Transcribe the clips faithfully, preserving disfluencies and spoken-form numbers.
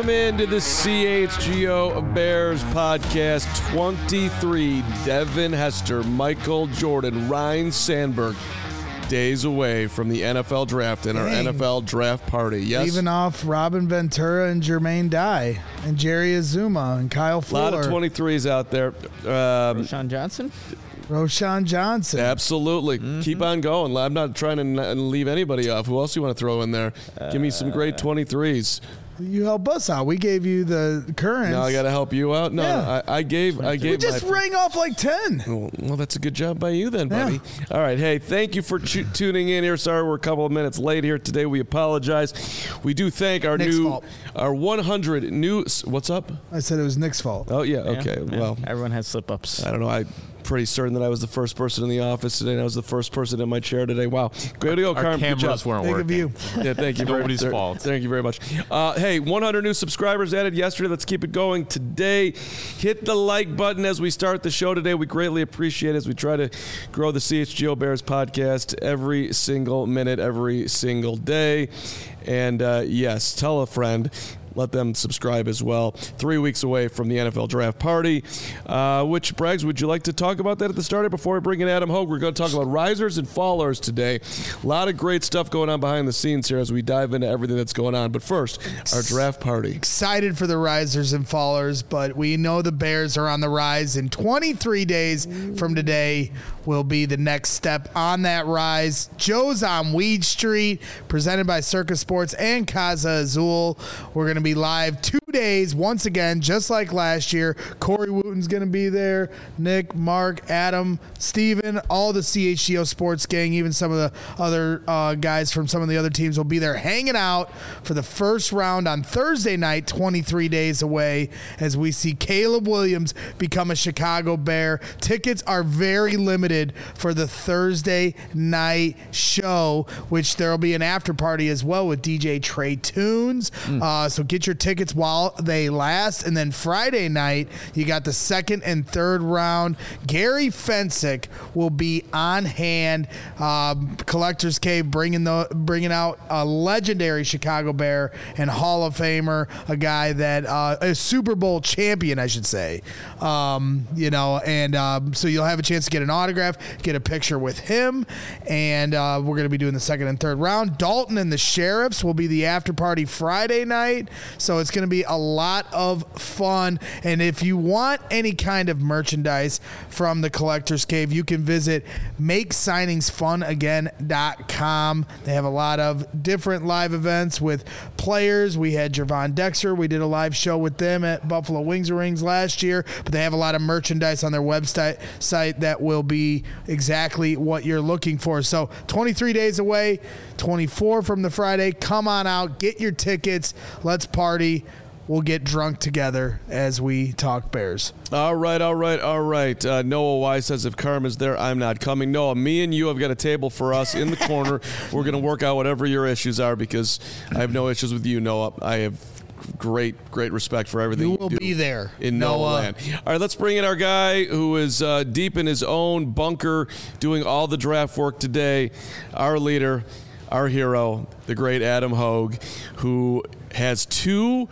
Welcome into the C H G O Bears podcast. twenty-three, Devin Hester, Michael Jordan, Ryan Sandberg. Days away from the N F L draft and our Dang. N F L draft party. Yes. Leaving off Robin Ventura and Jermaine Dye and Jerry Azuma and Kyle A Fuller. lot of twenty-threes out there. Um, Sean Johnson? Roshan Johnson. Absolutely. Mm-hmm. Keep on going. I'm not trying to n- leave anybody off. Who else do you want to throw in there? Uh, Give me some great twenty-threes. You help us out. We gave you the currents. Now I got to help you out. No, yeah. I, I gave. I gave. We just my, rang off like ten. Well, well, that's a good job by you then, buddy. Yeah. All right. Hey, thank you for ch- tuning in here. Sorry we're a couple of minutes late here today. We apologize. We do thank our Nick's new, fault. our one hundred new. What's up? I said it was Nick's fault. Oh yeah. Okay. Yeah, well, everyone has slip ups. I don't know. I. Pretty certain that I was the first person in the office today, and I was the first person in my chair today. Wow. Great to go, Our Carm. cameras weren't Think working. of you. Yeah, thank you. very, Nobody's there, fault. Thank you very much. Uh, hey, one hundred new subscribers added yesterday. Let's keep it going today. Hit the like button as we start the show today. We greatly appreciate it as we try to grow the C H G O Bears podcast every single minute, every single day. And uh, yes, tell a friend. Let them subscribe as well. Three weeks away from the N F L draft party. Uh, which, Braggs, would you like to talk about that at the start? Before we bring in Adam Hogue, we're going to talk about risers and fallers today. A lot of great stuff going on behind the scenes here as we dive into everything that's going on. But first, our draft party. Excited for the risers and fallers, but we know the Bears are on the rise. In twenty-three days from today will be the next step on that rise. Joe's on Weed Street, presented by Circus Sports and Casa Azul. We're going to be live two days once again, just like last year. Corey Wooten's going to be there. Nick, Mark, Adam, Steven, all the C H G O Sports gang, even some of the other uh, guys from some of the other teams will be there hanging out for the first round on Thursday night, twenty-three days away, as we see Caleb Williams become a Chicago Bear. Tickets are very limited for the Thursday night show, which there will be an after party as well with D J Trey Tunes. Mm. Uh, so get your tickets while they last. And then Friday night, you got the second and third round. Gary Fensick will be on hand. Um, Collector's Cave bringing the bringing out a legendary Chicago Bear and Hall of Famer, a guy that uh, a Super Bowl champion, I should say. Um, you know, and um, so you'll have a chance to get an autograph, get a picture with him, and uh, we're going to be doing the second and third round. Dalton and the Sheriffs will be the after party Friday night, so it's going to be a lot of fun. And if you want any kind of merchandise from the Collector's Cave, you can visit make signings fun again dot com. They have a lot of different live events with players. We had Jervon Dexter. We did a live show with them at Buffalo Wings and Rings last year, but they have a lot of merchandise on their website site that will be exactly what you're looking for. So twenty-three days away, twenty-four from the Friday. Come on out, get your tickets. Let's party. We'll get drunk together as we talk Bears. All right, all right, all right. Uh, Noah Y says, if Karma's there, I'm not coming. Noah, me and you have got a table for us in the corner. We're going to work out whatever your issues are because I have no issues with you, Noah. I have great, great respect for everything you you will do be there in Noah land. All right, let's bring in our guy who is uh, deep in his own bunker doing all the draft work today, our leader, our hero, the great Adam Hogue, who has two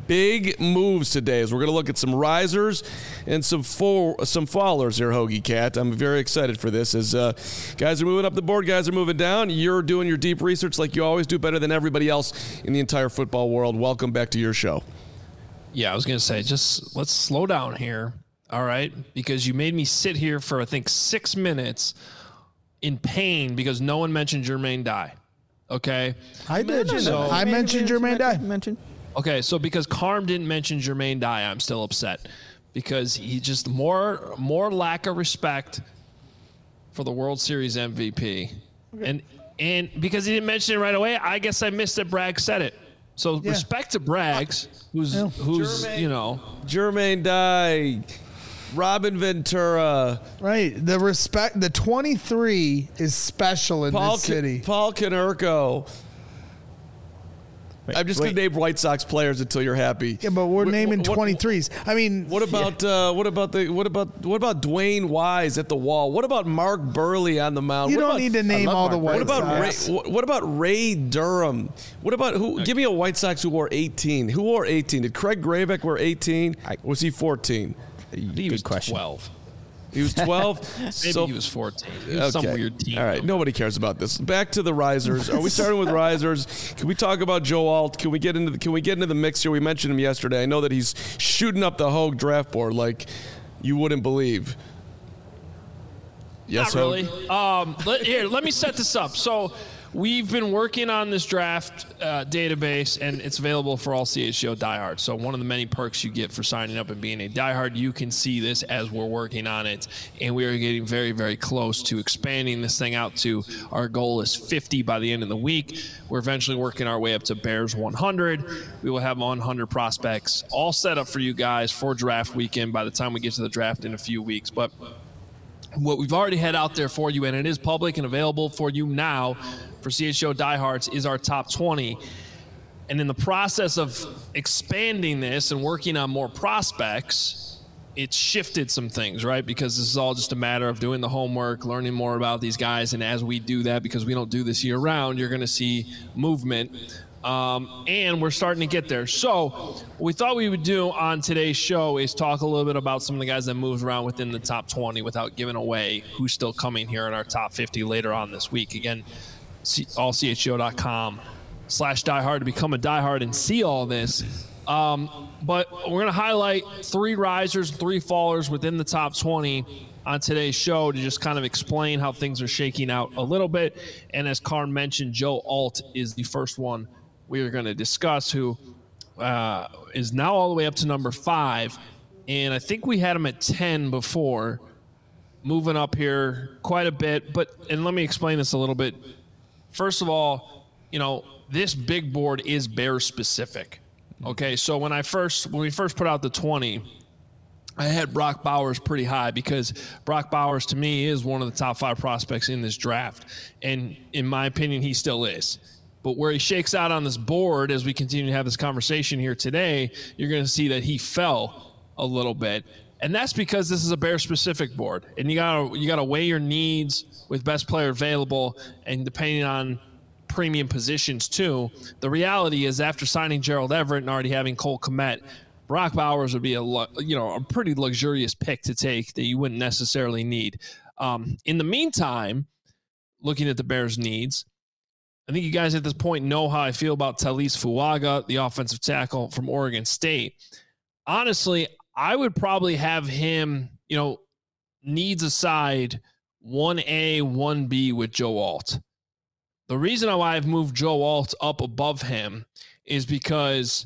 big moves today as we're going to look at some risers and some for, some fallers here, Hoagie Cat. I'm very excited for this as uh, guys are moving up the board, guys are moving down. You're doing your deep research like you always do, better than everybody else in the entire football world. Welcome back to your show. Yeah, I was going to say, just let's slow down here, all right? Because you made me sit here for, I think, six minutes in pain because no one mentioned Jermaine Dye, okay? I did. No, no, no. I mentioned Jermaine Dye. Mentioned. Okay, so because Carm didn't mention Jermaine Dye, I'm still upset because he just more more lack of respect for the World Series M V P, okay. and and because he didn't mention it right away, I guess I missed that Bragg said it. So yeah. Respect to Braggs, who's yeah. who's Jermaine, you know Jermaine Dye, Robin Ventura, right? The respect, the twenty-three is special in Paul this city. Paul Konerko. I'm just going to name White Sox players until you're happy. Yeah, but we're what, naming what, twenty-threes. I mean, what about yeah. uh, what about the what about what about Dwayne Wise at the wall? What about Mark Burley on the mound? You what don't about, need to name all Mark the White what about Sox. Ray, what, what about Ray Durham? What about who? Okay. Give me a White Sox who wore eighteen. Who wore eighteen? Did Craig Graveck wear eighteen? Or was he fourteen? He was question. twelve. He was twelve. Maybe so, he was fourteen. He was okay. some weird team. All right. Nobody cares about this. Back to the risers. Are we starting with risers? Can we talk about Joe Alt? Can we get into the Can we get into the mix here? We mentioned him yesterday. I know that he's shooting up the Hogue draft board like you wouldn't believe. Yes, Not really. Um, let, here, let me set this up. So we've been working on this draft uh, database, and it's available for all C H G O diehards. So one of the many perks you get for signing up and being a diehard, you can see this as we're working on it. And we are getting very, very close to expanding this thing out to our goal is fifty by the end of the week. We're eventually working our way up to Bears one hundred. We will have one hundred prospects all set up for you guys for draft weekend by the time we get to the draft in a few weeks. But what we've already had out there for you, and it is public and available for you now for C H G O diehards, is our top twenty. And in the process of expanding this and working on more prospects, it's shifted some things, right? Because this is all just a matter of doing the homework, learning more about these guys. And as we do that, because we don't do this year round, you're going to see movement. Um, and we're starting to get there. So what we thought we would do on today's show is talk a little bit about some of the guys that moved around within the top twenty without giving away who's still coming here in our top fifty later on this week. Again, all C H G O dot com slash diehard to become a diehard and see all this. Um, but we're going to highlight three risers, three fallers within the top twenty on today's show to just kind of explain how things are shaking out a little bit. And as Carm mentioned, Joe Alt is the first one we are going to discuss, who uh, is now all the way up to number five. And I think we had him at ten before, moving up here quite a bit. But, and let me explain this a little bit. First of all, you know, this big board is Bears specific. Okay, so when I first, when we first put out the twenty, I had Brock Bowers pretty high because Brock Bowers, to me, is one of the top five prospects in this draft. And in my opinion, he still is. But where he shakes out on this board as we continue to have this conversation here today, you're going to see that he fell a little bit. And that's because this is a Bear-specific board. And you got to you got to weigh your needs with best player available and depending on premium positions too. The reality is after signing Gerald Everett and already having Cole Kmet, Brock Bowers would be a you know a pretty luxurious pick to take that you wouldn't necessarily need. Um, in the meantime, looking at the Bears' needs, I think you guys at this point know how I feel about Taliese Fuaga, the offensive tackle from Oregon State. Honestly, I would probably have him, you know, needs aside, one A, one B with Joe Alt. The reason why I've moved Joe Alt up above him is because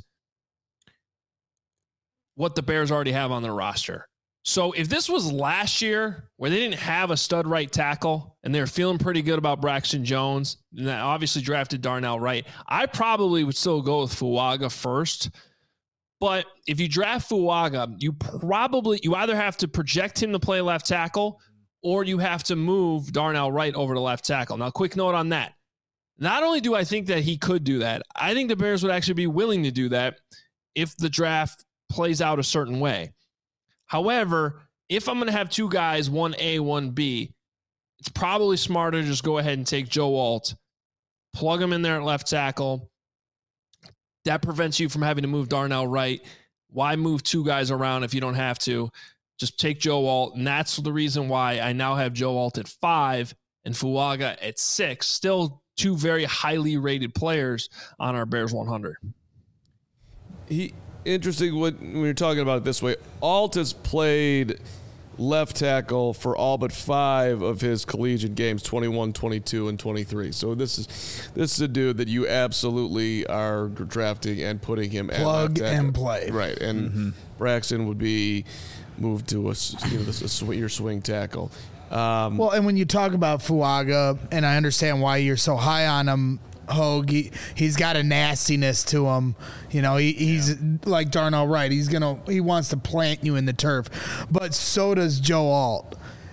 what the Bears already have on their roster. So if this was last year where they didn't have a stud right tackle and they're feeling pretty good about Braxton Jones, and that obviously drafted Darnell Wright, I probably would still go with Fuaga first. But if you draft Fuaga, you probably, you either have to project him to play left tackle or you have to move Darnell Wright over to left tackle. Now, quick note on that. Not only do I think that he could do that, I think the Bears would actually be willing to do that if the draft plays out a certain way. However, if I'm going to have two guys, one A, one B, it's probably smarter to just go ahead and take Joe Alt, plug him in there at left tackle. That prevents you from having to move Darnell Wright. Why move two guys around if you don't have to? Just take Joe Alt, and that's the reason why I now have Joe Alt at five and Fuaga at six. Still two very highly rated players on our Bears one hundred. He interesting when, when you're talking about it this way. Alt has played left tackle for all but five of his collegiate games, twenty-one, twenty-two, and twenty-three. So this is this is a dude that you absolutely are drafting and putting him at plug left tackle. and play. Right, and mm-hmm. Braxton would be moved to a, you know, this, a, your swing tackle. Um, well, and when you talk about Fuaga, and I understand why you're so high on him, Hogue, he, he's got a nastiness to him. You know, he, he's yeah. like Darnell Wright. He's gonna he wants to plant you in the turf, but so does Joe Alt.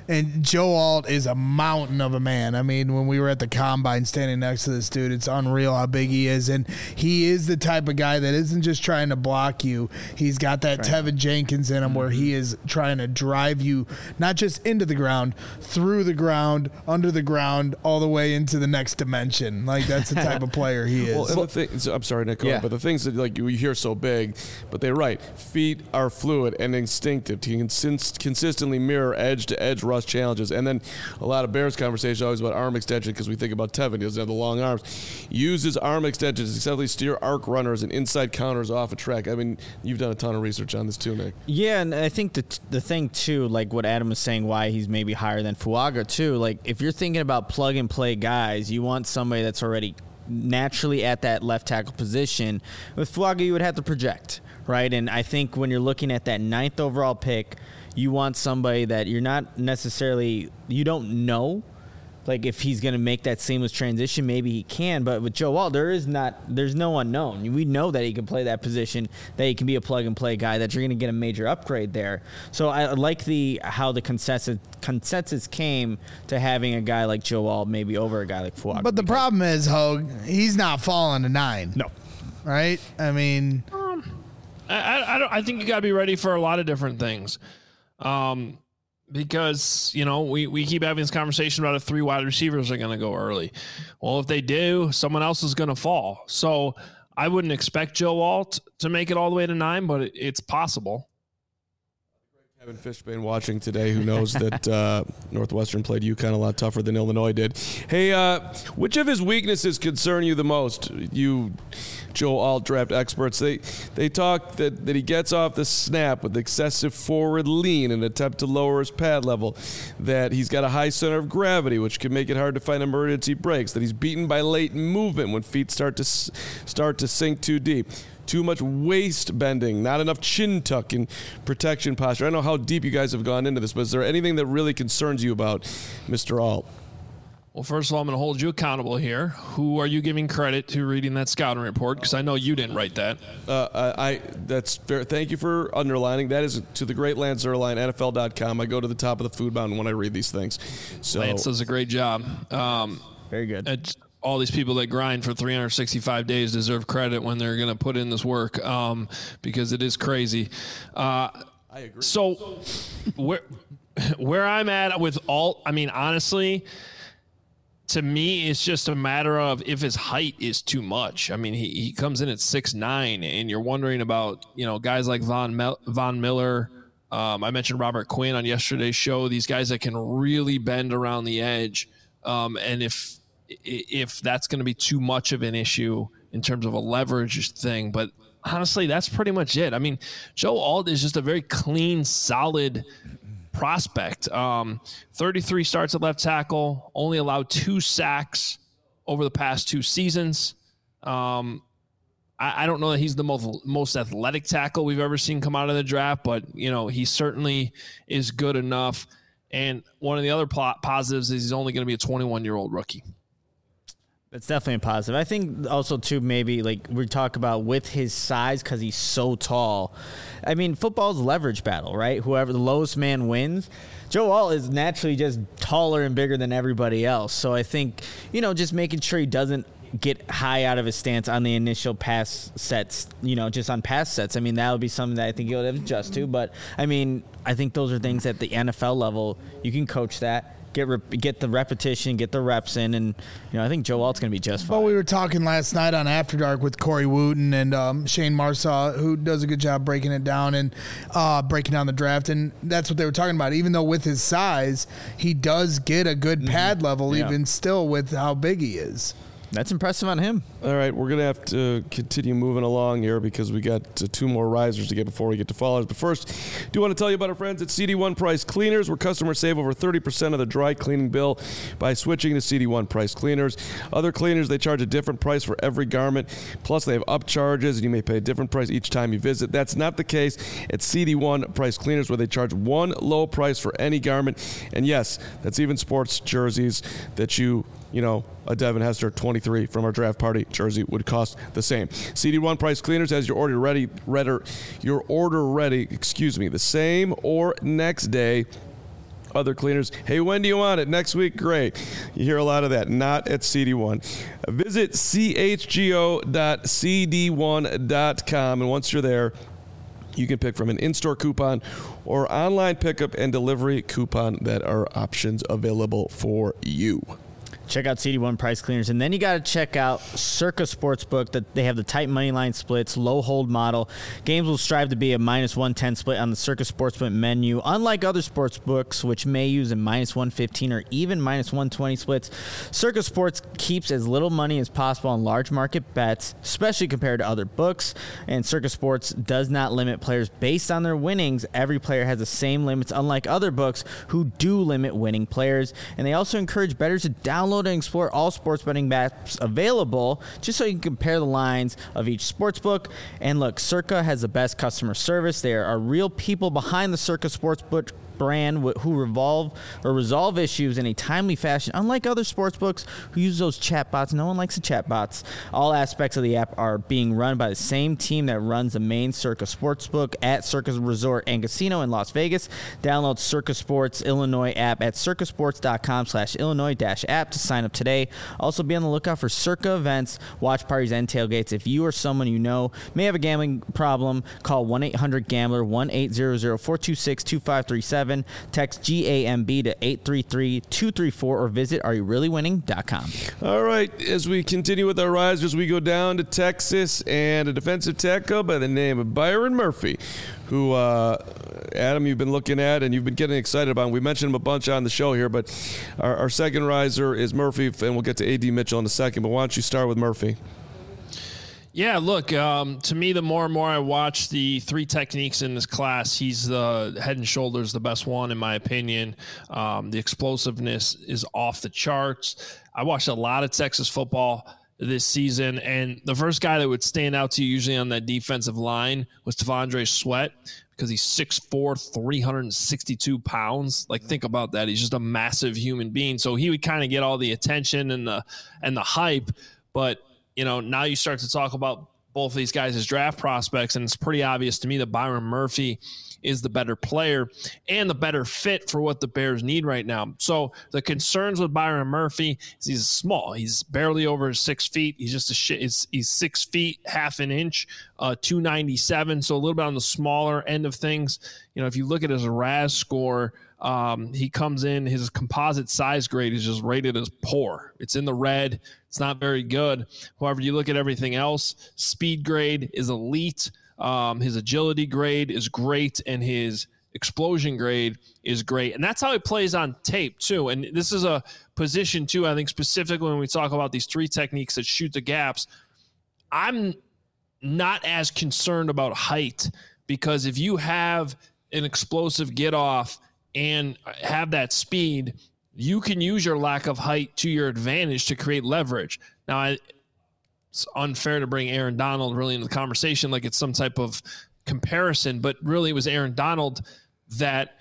And Joe Alt is a mountain of a man. I mean, when we were at the combine standing next to this dude, it's unreal how big he is. And he is the type of guy that isn't just trying to block you. He's got that right. Tevin Jenkins in him where he is trying to drive you not just into the ground, through the ground, under the ground, all the way into the next dimension. Like, that's the type of player he is. Well, and the thing, so I'm sorry, Nick, yeah. but the things that like you hear so big, but they're right. Feet are fluid and instinctive. He can consistently mirror edge-to-edge rush challenges. And then a lot of Bears conversation always about arm extension because we think about Tevin. He doesn't have the long arms. Uses arm extensions to successfully steer arc runners and inside counters off a track. I mean, you've done a ton of research on this too, Nick. Yeah, and I think the the thing too, like what Adam was saying, why he's maybe higher than Fuaga too. Like if you're thinking about plug and play guys, you want somebody that's already naturally at that left tackle position. With Fuaga, you would have to project, right? And I think when you're looking at that ninth overall pick, you want somebody that you're not necessarily, you don't know, like if he's going to make that seamless transition, maybe he can. But with Joe Alt, there is not, there's no unknown. We know that he can play that position, that he can be a plug and play guy, that you're going to get a major upgrade there. So I like the how the consensus consensus came to having a guy like Joe Alt maybe over a guy like Fuaga. But the problem is, Hogue, he's not falling to nine. No. Right? I mean, um, I I, don't, I think you got to be ready for a lot of different things. Um, because, you know, we, we keep having this conversation about if three wide receivers are going to go early. Well, if they do, someone else is going to fall. So I wouldn't expect Joe Alt to make it all the way to nine, but it, it's possible. Kevin Fishbane watching today, who knows that uh, Northwestern played UConn a lot tougher than Illinois did. Hey, uh, which of his weaknesses concern you the most? You, Joe Alt draft experts, they they talk that, that he gets off the snap with excessive forward lean in an attempt to lower his pad level, that he's got a high center of gravity, which can make it hard to find emergency breaks, that he's beaten by late movement when feet start to start to sink too deep. Too much waist bending, not enough chin tuck and protection posture. I don't know how deep you guys have gone into this, but is there anything that really concerns you about Mister Alt? Well, first of all, I'm going to hold you accountable here. Who are you giving credit to reading that scouting report? Because I know you didn't write that. Uh, I, I that's fair. Thank you for underlining. That is to the great Lance Zierlein, N F L dot com. I go to the top of the food mountain when I read these things. So Lance does a great job. Um, Very good. It's, all these people that grind for three hundred sixty-five days deserve credit when they're going to put in this work, um, because it is crazy. Uh, I agree. So where where I'm at with Alt, I mean, honestly, to me, it's just a matter of if his height is too much. I mean, he, he comes in at six nine, and you're wondering about, you know, guys like Von Mel- Von Miller. Um, I mentioned Robert Quinn on yesterday's show. These guys that can really bend around the edge, um, and if if that's going to be too much of an issue in terms of a leverage thing. But honestly, that's pretty much it. I mean, Joe Alt is just a very clean, solid prospect. Um, thirty-three starts at left tackle, only allowed two sacks over the past two seasons. Um, I, I don't know that he's the most, most athletic tackle we've ever seen come out of the draft, but, you know, he certainly is good enough. And one of the other plot positives is he's only going to be a twenty-one-year-old rookie. That's definitely a positive. I think also, too, maybe, like we talk about with his size because he's so tall. I mean, football's a leverage battle, right? Whoever the lowest man wins. Joe Alt is naturally just taller and bigger than everybody else. So I think, you know, just making sure he doesn't get high out of his stance on the initial pass sets, you know, just on pass sets. I mean, that would be something that I think he'll have to adjust to. But, I mean, I think those are things at the N F L level. You can coach that. Get rep- get the repetition, get the reps in, and you know I think Joe Alt's going to be just fine. Well, we were talking last night on After Dark with Corey Wooten and um, Shane Marsaw, who does a good job breaking it down and uh, breaking down the draft, and that's what they were talking about. Even though with his size, he does get a good pad mm-hmm. level, yeah. even still with how big he is. That's impressive on him. All right, we're going to have to continue moving along here because we got uh, two more risers to get before we get to fallers. But first, I do want to tell you about our friends at C D one Price Cleaners, where customers save over thirty percent of their dry cleaning bill by switching to C D one Price Cleaners. Other cleaners, they charge a different price for every garment. Plus, they have upcharges, and you may pay a different price each time you visit. That's not the case at C D one Price Cleaners, where they charge one low price for any garment. And yes, that's even sports jerseys that you, you know, a Devin Hester twenty-three from our draft party jersey would cost the same. C D one Price Cleaners has your order ready, ready, your order ready, excuse me, the same or next day other cleaners. Hey, when do you want it? Next week? Great. You hear a lot of that. Not at C D one. Visit C H G O dot C D one dot com, and once you're there, you can pick from an in-store coupon or online pickup and delivery coupon that are options available for you. Check out C D one Price Cleaners. And then you got to check out Circa Sportsbook. That they have the tight money line splits, low hold model. Games will strive to be a minus one ten split on the Circa Sportsbook menu. Unlike other sports books, which may use a minus one fifteen or even minus one twenty splits, Circa Sports keeps as little money as possible on large market bets, especially compared to other books. And Circa Sports does not limit players based on their winnings. Every player has the same limits, unlike other books who do limit winning players. And they also encourage bettors to download and explore all sports betting apps available just so you can compare the lines of each sports book. And look, Circa has the best customer service. There are real people behind the Circa Sportsbook brand who revolve or resolve issues in a timely fashion, unlike other sports books who use those chatbots. No one likes the chatbots. All aspects of the app are being run by the same team that runs the main Circa Sportsbook at Circa Resort and Casino in Las Vegas. Download Circa Sports Illinois app at circasports.com slash Illinois dash app to sign up today. Also be on the lookout for Circa events, watch parties, and tailgates. If you or someone you know may have a gambling problem, call one eight hundred gambler, one eight hundred, four two six, two five three seven. Text G A M B to eight three three, two three four or visit are you really winning dot com. All right, as we continue with our risers, we go down to Texas and a defensive tackle by the name of Byron Murphy, who, uh, Adam, you've been looking at and you've been getting excited about. We mentioned him a bunch on the show here, but our, our second riser is Murphy, and we'll get to A D Mitchell in a second. But why don't you start with Murphy? Yeah, look, um, to me, the more and more I watch the three techniques in this class, he's the head and shoulders the best one, in my opinion. Um, the explosiveness is off the charts. I watched a lot of Texas football this season, and the first guy that would stand out to you usually on that defensive line was T'Vondre Sweat, because he's six foot four, three hundred sixty-two pounds. Like, think about that. He's just a massive human being. So he would kind of get all the attention and the and the hype, but you know, now you start to talk about both of these guys as draft prospects, and it's pretty obvious to me that Byron Murphy is the better player and the better fit for what the Bears need right now. So the concerns with Byron Murphy is he's small. He's barely over six feet. He's just a shit. He's, he's six feet, half an inch, uh, two ninety-seven. So a little bit on the smaller end of things. You know, if you look at his R A S score, Um, he comes in, his composite size grade is just rated as poor. It's in the red. It's not very good. However, you look at everything else, speed grade is elite. Um, his agility grade is great, and his explosion grade is great. And that's how he plays on tape, too. And this is a position, too, I think specifically when we talk about these three techniques that shoot the gaps, I'm not as concerned about height, because if you have an explosive get off and have that speed, you can use your lack of height to your advantage to create leverage. Now, I, it's unfair to bring Aaron Donald really into the conversation like it's some type of comparison, but really it was Aaron Donald that,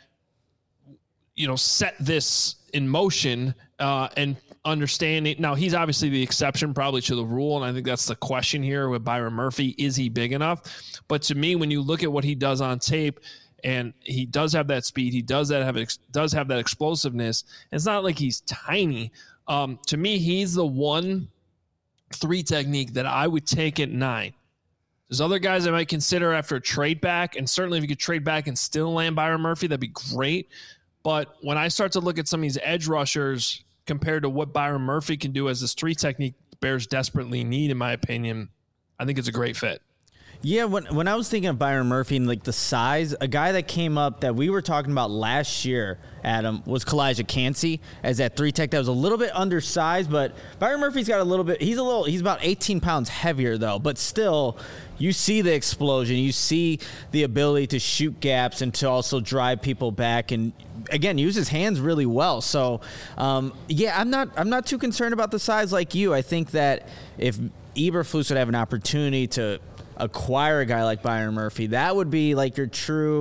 you know, set this in motion uh, and understanding. Now, he's obviously the exception probably to the rule, and I think that's the question here with Byron Murphy. Is he big enough? But to me, when you look at what he does on tape, and he does have that speed, he does that have does have that explosiveness. It's not like he's tiny. Um, to me, he's the one three technique that I would take at nine. There's other guys I might consider after a trade back, and certainly if you could trade back and still land Byron Murphy, that'd be great. But when I start to look at some of these edge rushers compared to what Byron Murphy can do as this three technique the Bears desperately need, in my opinion, I think it's a great fit. Yeah, when when I was thinking of Byron Murphy and like the size, a guy that came up that we were talking about last year, Adam, was Kalijah Kancey as that three tech that was a little bit undersized, but Byron Murphy's got a little bit, he's a little, he's about eighteen pounds heavier though, but still, you see the explosion, you see the ability to shoot gaps and to also drive people back and again, use his hands really well. So, um, yeah, I'm not, I'm not too concerned about the size like you. I think that if Eberflus would have an opportunity to acquire a guy like Byron Murphy, that would be like your true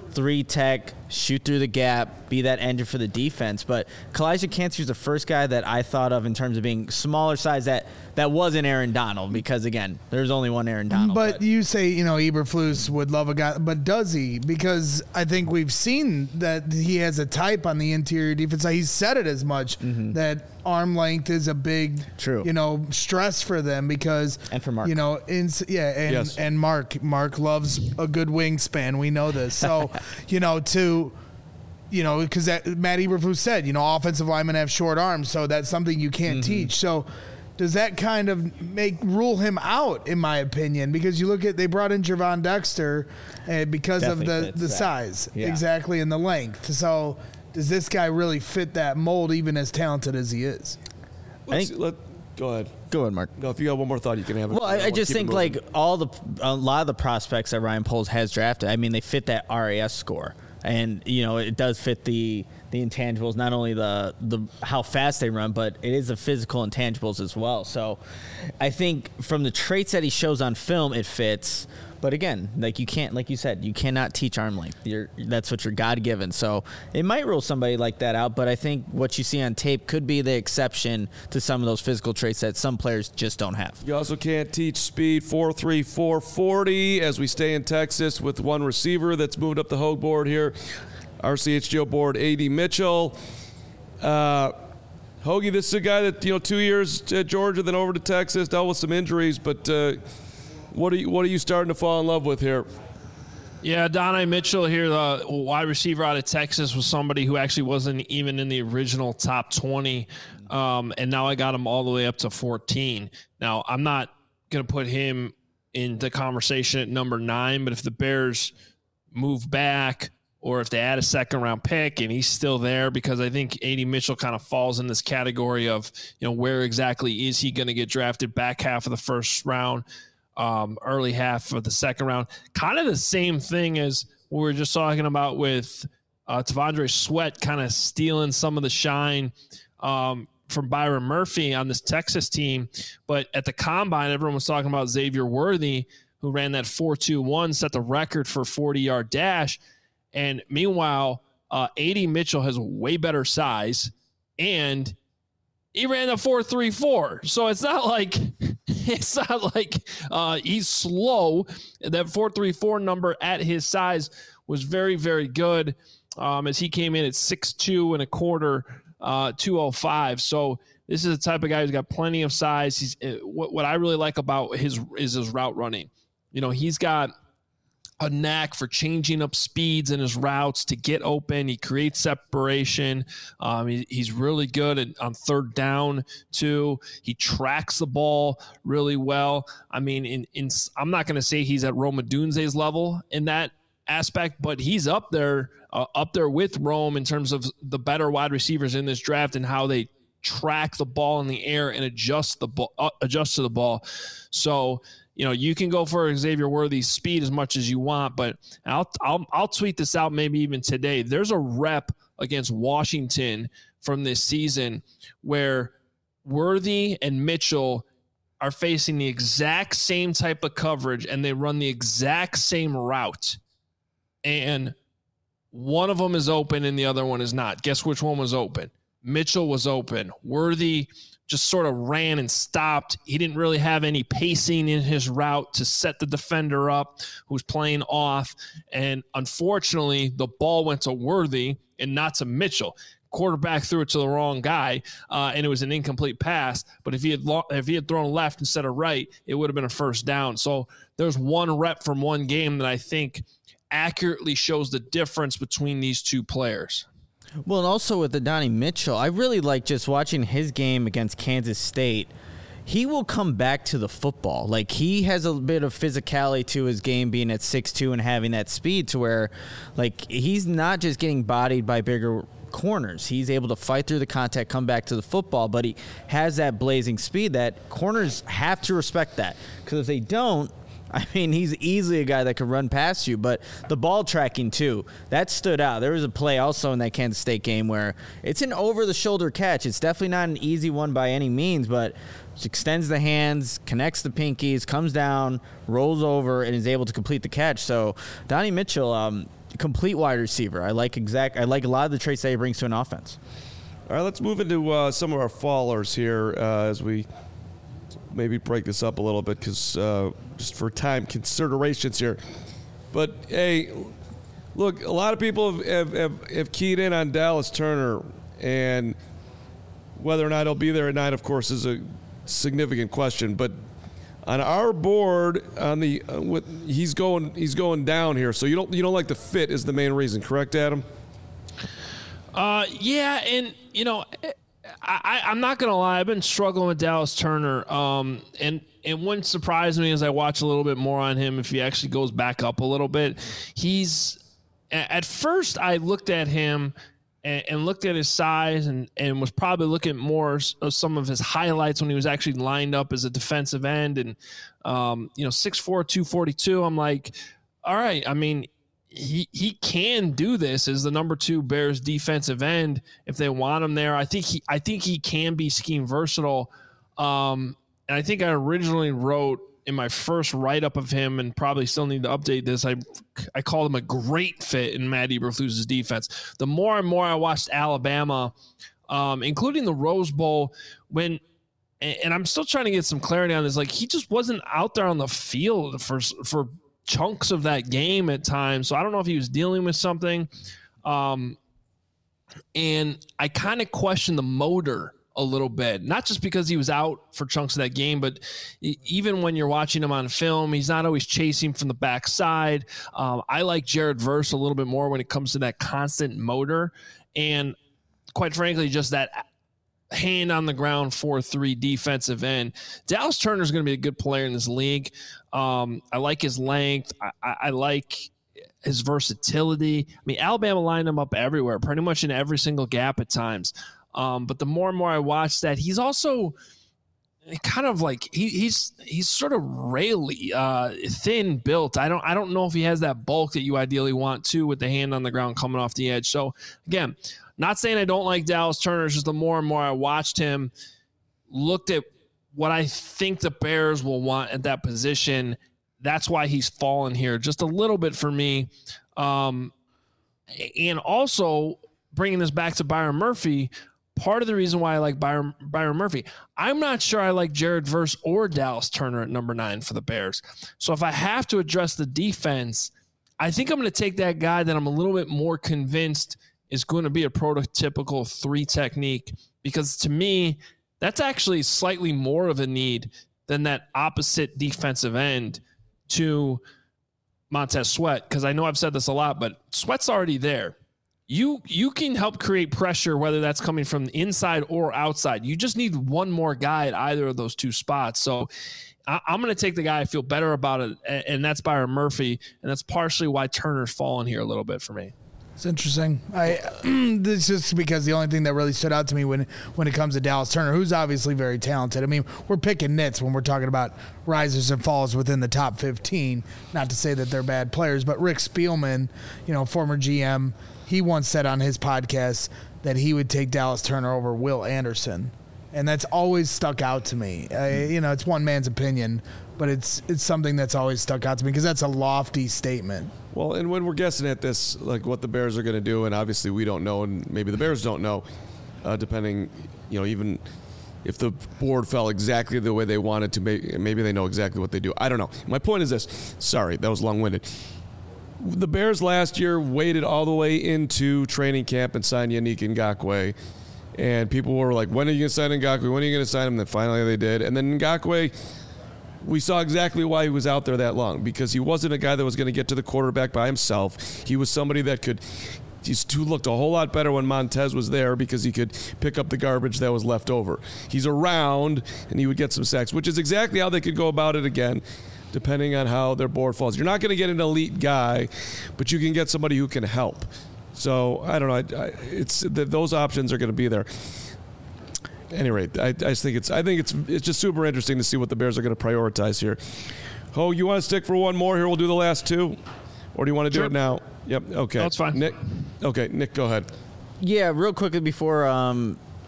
three tech, shoot through the gap, be that engine for the defense. But Kalijah Kancey's the first guy that I thought of in terms of being smaller size that, that wasn't Aaron Donald, because, again, there's only one Aaron Donald. But, but. you say, you know, Eberflus would love a guy, but does he? Because I think we've seen that he has a type on the interior defense. He's said it as much, mm-hmm. that arm length is a big, True. you know, stress for them because, and for Mark. you know, in, yeah, and, yes. and Mark, Mark loves a good wingspan. We know this. So, you know, to, you know, because Matt Eberflus said, you know, offensive linemen have short arms, so that's something you can't mm-hmm. teach. So, does that kind of make rule him out, in my opinion? Because you look at, they brought in Gervon Dexter uh, because Definitely of the, the that. size, yeah. exactly, and the length. So does this guy really fit that mold, even as talented as he is? Let's, think, let, go ahead. Go ahead, Mark. No, if you got one more thought, you can have it. Well, I, I, I just think like all the a lot of the prospects that Ryan Poles has drafted, I mean, they fit that R A S score, and you know it does fit the the intangibles, not only the the how fast they run, but it is the physical intangibles as well. So, I think from the traits that he shows on film, it fits. But again, like you can't, like you said, you cannot teach arm length. You're, that's what you're God given. So it might rule somebody like that out. But I think what you see on tape could be the exception to some of those physical traits that some players just don't have. You also can't teach speed. four three, four forty as we stay in Texas with one receiver that's moved up the Hogue board here. R C H G O board, A D Mitchell. Uh, Hoagie, this is a guy that, you know, two years at Georgia, then over to Texas, dealt with some injuries, but uh, what are you what are you starting to fall in love with here? Yeah, Donnie Mitchell here, the wide receiver out of Texas, was somebody who actually wasn't even in the original top twenty, um, and now I got him all the way up to fourteen. Now, I'm not going to put him in the conversation at number nine, but if the Bears move back or if they add a second-round pick and he's still there, because I think A D Mitchell kind of falls in this category of, you know, where exactly is he going to get drafted, back half of the first round, Um, early half of the second round. Kind of the same thing as we were just talking about with uh, T'Vondre Sweat kind of stealing some of the shine um, from Byron Murphy on this Texas team. But at the Combine, everyone was talking about Xavier Worthy, who ran that four two one, set the record for forty-yard dash. And meanwhile, uh, A D Mitchell has way better size, and he ran a four three four. So it's not like it's not like uh, he's slow. That four three four number at his size was very, very good, um, as he came in at six two and a quarter, uh, two oh five. So this is the type of guy who's got plenty of size. He's uh, what, what I really like about his is his route running. You know, he's got a knack for changing up speeds in his routes to get open. He creates separation. Um, he, he's really good at, on third down too. He tracks the ball really well. I mean, in, in I'm not going to say he's at Rome Odunze's level in that aspect, but he's up there, uh, up there with Rome in terms of the better wide receivers in this draft and how they track the ball in the air and adjust the ball, uh, adjust to the ball. So, you know, you can go for Xavier Worthy's speed as much as you want, but I'll I'll I'll tweet this out maybe even today. There's a rep against Washington from this season where Worthy and Mitchell are facing the exact same type of coverage and they run the exact same route. And one of them is open and the other one is not. Guess which one was open? Mitchell was open. Worthy just sort of ran and stopped. He didn't really have any pacing in his route to set the defender up who's playing off. And unfortunately, the ball went to Worthy and not to Mitchell. Quarterback threw it to the wrong guy, uh, and it was an incomplete pass. But if he had lo- if he had thrown left instead of right, it would have been a first down. So there's one rep from one game that I think accurately shows the difference between these two players. Well, and also with the Donnie Mitchell, I really like just watching his game against Kansas State. He will come back to the football. Like, he has a bit of physicality to his game, being at six two and having that speed to where, like, he's not just getting bodied by bigger corners. He's able to fight through the contact, come back to the football, but he has that blazing speed that corners have to respect that. Because if they don't, I mean, he's easily a guy that can run past you, but the ball tracking, too, that stood out. There was a play also in that Kansas State game where it's an over-the-shoulder catch. It's definitely not an easy one by any means, but extends the hands, connects the pinkies, comes down, rolls over, and is able to complete the catch. So Donnie Mitchell, um, complete wide receiver. I like exact. I like a lot of the traits that he brings to an offense. All right, let's move into uh, some of our fallers here uh, as we maybe break this up a little bit because uh, just for time considerations here. But, hey, look, a lot of people have, have, have, have keyed in on Dallas Turner, and whether or not he'll be there at night, of course, is a significant question. But on our board, on the uh, with, he's going he's going down here. So you don't you don't like the fit is the main reason, correct, Adam? Uh, yeah, and you know, I, I I'm not gonna lie, I've been struggling with Dallas Turner. Um, and it wouldn't surprise me as I watch a little bit more on him if he actually goes back up a little bit. He's at first I looked at him. And, and looked at his size and, and was probably looking at more of some of his highlights when he was actually lined up as a defensive end. And, um, you know, six four, two forty-two, I'm like, all right, I mean, he he can do this as the number two Bears defensive end if they want him there. I think he I think he can be scheme versatile. Um, and I think I originally wrote in my first write-up of him, and probably still need to update this, I I called him a great fit in Matt Eberflus's defense. The more and more I watched Alabama, um, including the Rose Bowl, when and I'm still trying to get some clarity on this, like he just wasn't out there on the field for for chunks of that game at times. So I don't know if he was dealing with something. Um, and I kind of question the motor a little bit, not just because he was out for chunks of that game, but even when you're watching him on film, he's not always chasing from the backside. Um, I like Jared Verse a little bit more when it comes to that constant motor. And quite frankly, just that hand on the ground four three defensive end. Dallas Turner is going to be a good player in this league. Um, I like his length. I, I, I like his versatility. I mean, Alabama lined him up everywhere, pretty much in every single gap at times. Um, but the more and more I watch that, he's also kind of like he, he's he's sort of really uh, thin built. I don't I don't know if he has that bulk that you ideally want to with the hand on the ground coming off the edge. So again, not saying I don't like Dallas Turner. It's just the more and more I watched him, looked at what I think the Bears will want at that position. That's why he's fallen here just a little bit for me. Um, and also bringing this back to Byron Murphy. Part of the reason why I like Byron, Byron Murphy, I'm not sure I like Jared Verse or Dallas Turner at number nine for the Bears. So if I have to address the defense, I think I'm going to take that guy that I'm a little bit more convinced is going to be a prototypical three technique, because to me, that's actually slightly more of a need than that opposite defensive end to Montez Sweat. Because I know I've said this a lot, but Sweat's already there. You you can help create pressure, whether that's coming from the inside or outside. You just need one more guy at either of those two spots. So I, I'm going to take the guy I feel better about it, and, and that's Byron Murphy, and that's partially why Turner's fallen here a little bit for me. It's interesting. I this is just because the only thing that really stood out to me when when it comes to Dallas Turner, who's obviously very talented. I mean, we're picking nits when we're talking about risers and falls within the top fifteen. Not to say that they're bad players, but Rick Spielman, you know, former G M, he once said on his podcast that he would take Dallas Turner over Will Anderson, and that's always stuck out to me. I, you know, it's one man's opinion, but it's it's something that's always stuck out to me because that's a lofty statement. Well, and when we're guessing at this, like what the Bears are going to do, and obviously we don't know, and maybe the Bears don't know, uh, depending, you know, even if the board fell exactly the way they wanted to, maybe they know exactly what they do. I don't know. My point is this. Sorry, that was long-winded. The Bears last year waited all the way into training camp and signed Yannick Ngakoue. And people were like, when are you going to sign Ngakoue? When are you going to sign him? And then finally they did. And then Ngakoue, we saw exactly why he was out there that long, because he wasn't a guy that was going to get to the quarterback by himself. He was somebody that could – he looked a whole lot better when Montez was there because he could pick up the garbage that was left over. He's around, and he would get some sacks, which is exactly how they could go about it again, depending on how their board falls. You're not going to get an elite guy, but you can get somebody who can help. So, I don't know. I, I, it's those options are going to be there. At any rate, I, I just think it's I think it's it's just super interesting to see what the Bears are going to prioritize here. Ho, you want to stick for one more here? We'll do the last two, or do you want to do Sure. it now? Yep. Okay. That's fine. Nick. Okay, Nick, go ahead. Yeah, real quickly before um,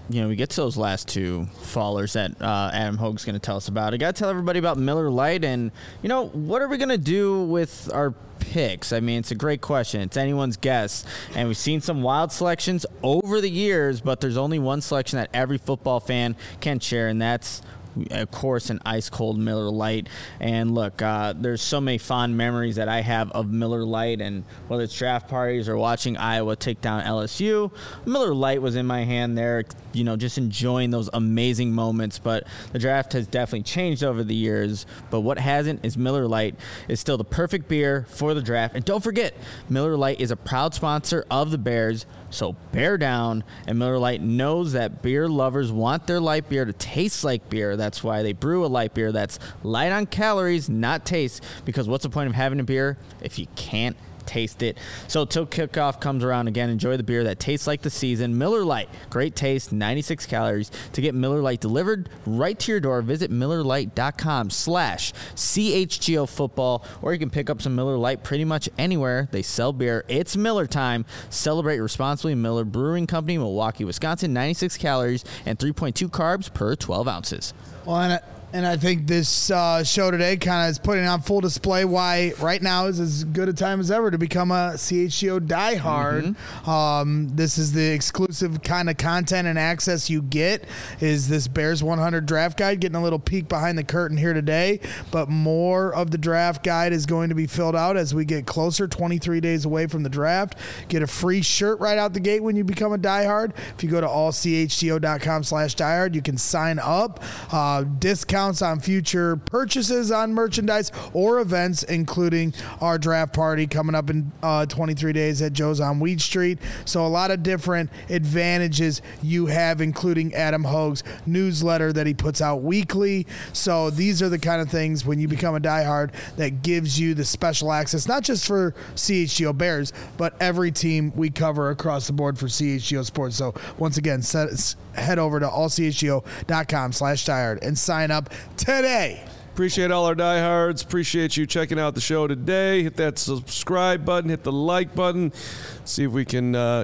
you know, we get to those last two fallers that uh, Adam Hoge's going to tell us about, I got to tell everybody about Miller Lite. And, you know, what are we going to do with our picks? I mean, it's a great question. It's anyone's guess. And we've seen some wild selections over the years, but there's only one selection that every football fan can share, and that's, of course, an ice-cold Miller Lite. And look, uh, there's so many fond memories that I have of Miller Lite, and whether it's draft parties or watching Iowa take down L S U, Miller Lite was in my hand there, you know, just enjoying those amazing moments. But the draft has definitely changed over the years, but what hasn't is Miller Lite is still the perfect beer for the draft. And don't forget, Miller Lite is a proud sponsor of the Bears, so bear down. And Miller Lite knows that beer lovers want their light beer to taste like beer. That's why they brew a light beer that's light on calories, not taste, because what's the point of having a beer if you can't taste it? So till kickoff comes around again, enjoy the beer that tastes like the season. Miller Lite, great taste, ninety-six calories. To get Miller Lite delivered right to your door, visit MillerLite.com slash CHGO football, or you can pick up some Miller Lite pretty much anywhere they sell beer. It's Miller time. Celebrate responsibly. Miller Brewing Company, Milwaukee, Wisconsin. ninety-six calories and three point two carbs per twelve ounces. Well, and I, and I think this uh, show today kind of is putting on full display why right now is as good a time as ever to become a C H G O diehard. Mm-hmm. Um, this is the exclusive kind of content and access you get is this Bears one hundred draft guide, getting a little peek behind the curtain here today. But more of the draft guide is going to be filled out as we get closer, twenty-three days away from the draft. Get a free shirt right out the gate when you become a diehard. If you go to allchgo.com slash diehard, you can sign up. Uh, discount on future purchases on merchandise or events, including our draft party coming up in uh, twenty-three days at Joe's on Weed Street. So a lot of different advantages you have, including Adam Hoge's newsletter that he puts out weekly. So these are the kind of things when you become a diehard that gives you the special access, not just for C H G O Bears, but every team we cover across the board for C H G O Sports. So once again, set, head over to allchgo.com slash diehard and sign up today. Appreciate all our diehards. Appreciate you checking out the show today. Hit that subscribe button. Hit the like button. See if we can uh,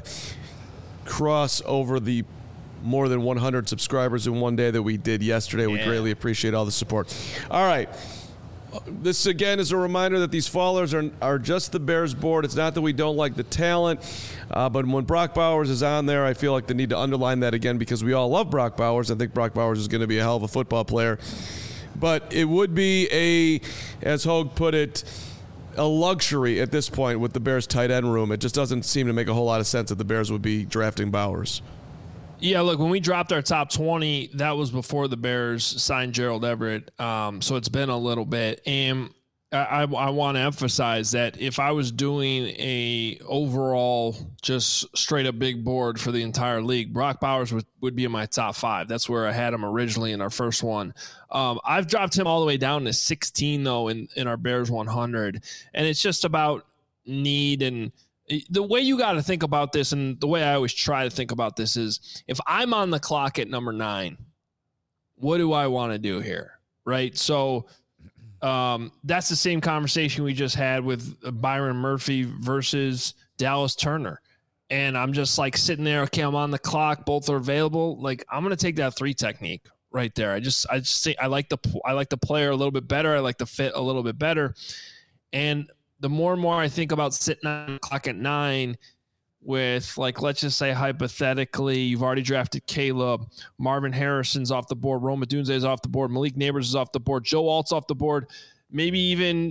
cross over the more than one hundred subscribers in one day that we did yesterday. Yeah. We greatly appreciate all the support. All right. This, again, is a reminder that these fallers are are just the Bears board. It's not that we don't like the talent, uh, but when Brock Bowers is on there, I feel like they need to underline that again because we all love Brock Bowers. I think Brock Bowers is going to be a hell of a football player. But it would be a, as Hogue put it, a luxury at this point with the Bears tight end room. It just doesn't seem to make a whole lot of sense that the Bears would be drafting Bowers. Yeah, look, when we dropped our top twenty, that was before the Bears signed Gerald Everett. Um, so it's been a little bit. And I, I, I want to emphasize that if I was doing a overall just straight up big board for the entire league, Brock Bowers would, would be in my top five. That's where I had him originally in our first one. Um, I've dropped him all the way down to sixteen, though, in, in our Bears one hundred. And it's just about need and the way you got to think about this, and the way I always try to think about this is if I'm on the clock at number nine, what do I want to do here? Right. So um, that's the same conversation we just had with Byron Murphy versus Dallas Turner. And I'm just like sitting there. Okay, I'm on the clock. Both are available. Like I'm going to take that three technique right there. I just, I just say I like the, I like the player a little bit better. I like the fit a little bit better. And the more and more I think about sitting on the clock at nine with, like, let's just say hypothetically, you've already drafted Caleb, Marvin Harrison's off the board, Rome Odunze is off the board, Malik Neighbors is off the board, Joe Alt's off the board, maybe even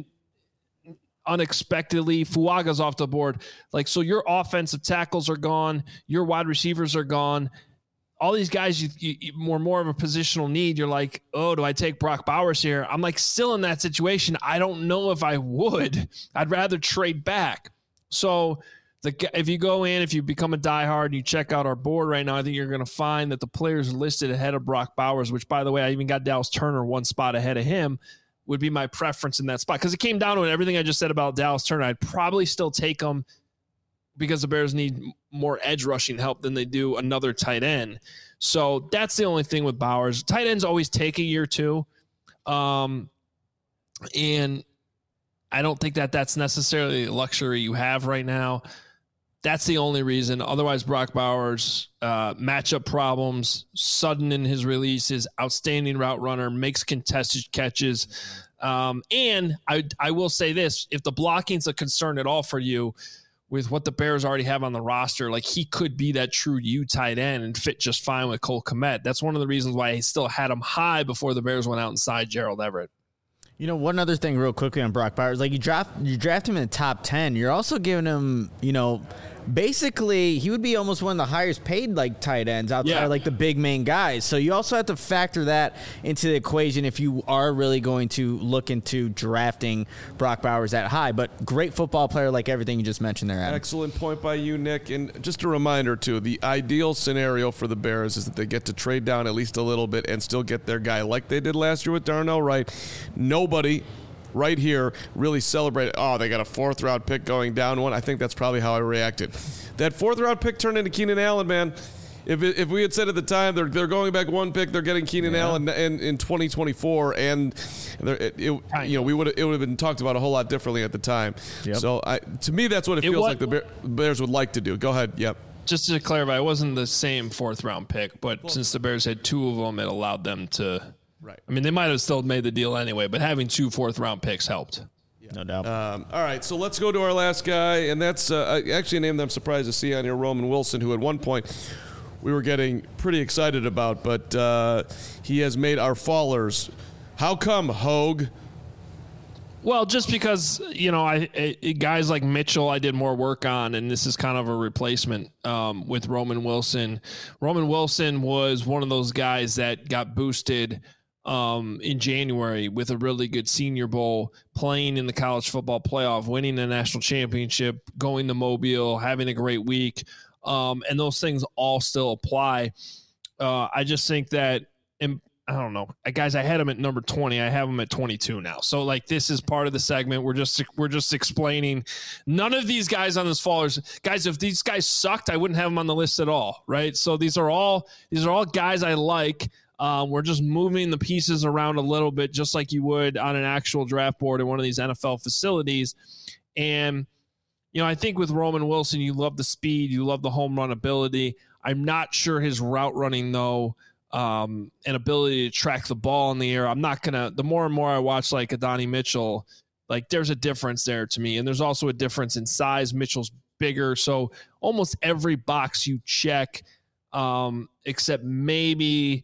unexpectedly Fuaga's off the board. Like, so your offensive tackles are gone, your wide receivers are gone. All these guys, you, you, you more more of a positional need. You're like, oh, do I take Brock Bowers here? I'm like still in that situation. I don't know if I would. I'd rather trade back. So the if you go in, if you become a diehard and you check out our board right now, I think you're going to find that the players listed ahead of Brock Bowers, which, by the way, I even got Dallas Turner one spot ahead of him, would be my preference in that spot. Because it came down to it, everything I just said about Dallas Turner, I'd probably still take him because the Bears need more edge rushing help than they do another tight end. So that's the only thing with Bowers. Tight ends always take a year too. Um, and I don't think that that's necessarily a luxury you have right now. That's the only reason. Otherwise, Brock Bowers, uh, matchup problems, sudden in his releases, outstanding route runner, makes contested catches. Um, and I, I will say this, if the blocking's a concern at all for you with what the Bears already have on the roster, like he could be that true U tight end and fit just fine with Cole Kmet. That's one of the reasons why I still had him high before the Bears went out and signed Gerald Everett. You know, one other thing real quickly on Brock Bowers, like you draft you draft him in the top ten, you're also giving him, you know, basically he would be almost one of the highest paid like tight ends outside yeah. of like the big main guys. So you also have to factor that into the equation if you are really going to look into drafting Brock Bowers that high. But great football player, like everything you just mentioned there, Adam. Excellent point by you, Nick. And just a reminder too, the ideal scenario for the Bears is that they get to trade down at least a little bit and still get their guy like they did last year with Darnell Wright. Nobody right here really celebrated, oh, they got a fourth round pick going down one. I think that's probably how I reacted. That fourth round pick turned into Keenan Allen, man. If it, if we had said at the time they're they're going back one pick, they're getting Keenan yeah. Allen in, in twenty twenty-four, and it, it, you know we would it would have been talked about a whole lot differently at the time. Yep. So I, to me, that's what it, it feels was, like the Bear, Bears would like to do. Go ahead. Yep. Just to clarify, it wasn't the same fourth round pick, but well, since the Bears had two of them, it allowed them to. Right. I mean, they might have still made the deal anyway, but having two fourth round picks helped. Yeah. No doubt. Um, all right, so let's go to our last guy, and that's uh, actually a name that I'm surprised to see on here, Roman Wilson, who at one point we were getting pretty excited about, but uh, he has made our fallers. How come, Hogue? Well, just because, you know, I, I guys like Mitchell I did more work on, and this is kind of a replacement um, with Roman Wilson. Roman Wilson was one of those guys that got boosted um, in January with a really good Senior Bowl, playing in the college football playoff, winning the national championship, going to Mobile, having a great week. Um, and those things all still apply. Uh, I just think that, in, I don't know, guys, I had him at number twenty. I have him at twenty-two now. So like, this is part of the segment. We're just, we're just explaining none of these guys on this fallers guys. If these guys sucked, I wouldn't have them on the list at all. Right. So these are all, these are all guys I like. Um, we're just moving the pieces around a little bit, just like you would on an actual draft board in one of these N F L facilities. And, you know, I think with Roman Wilson, you love the speed, you love the home run ability. I'm not sure his route running, though, um, and ability to track the ball in the air. I'm not going to, the more and more I watch like Adonai Mitchell, like there's a difference there to me. And there's also a difference in size. Mitchell's bigger. So almost every box you check, um, except maybe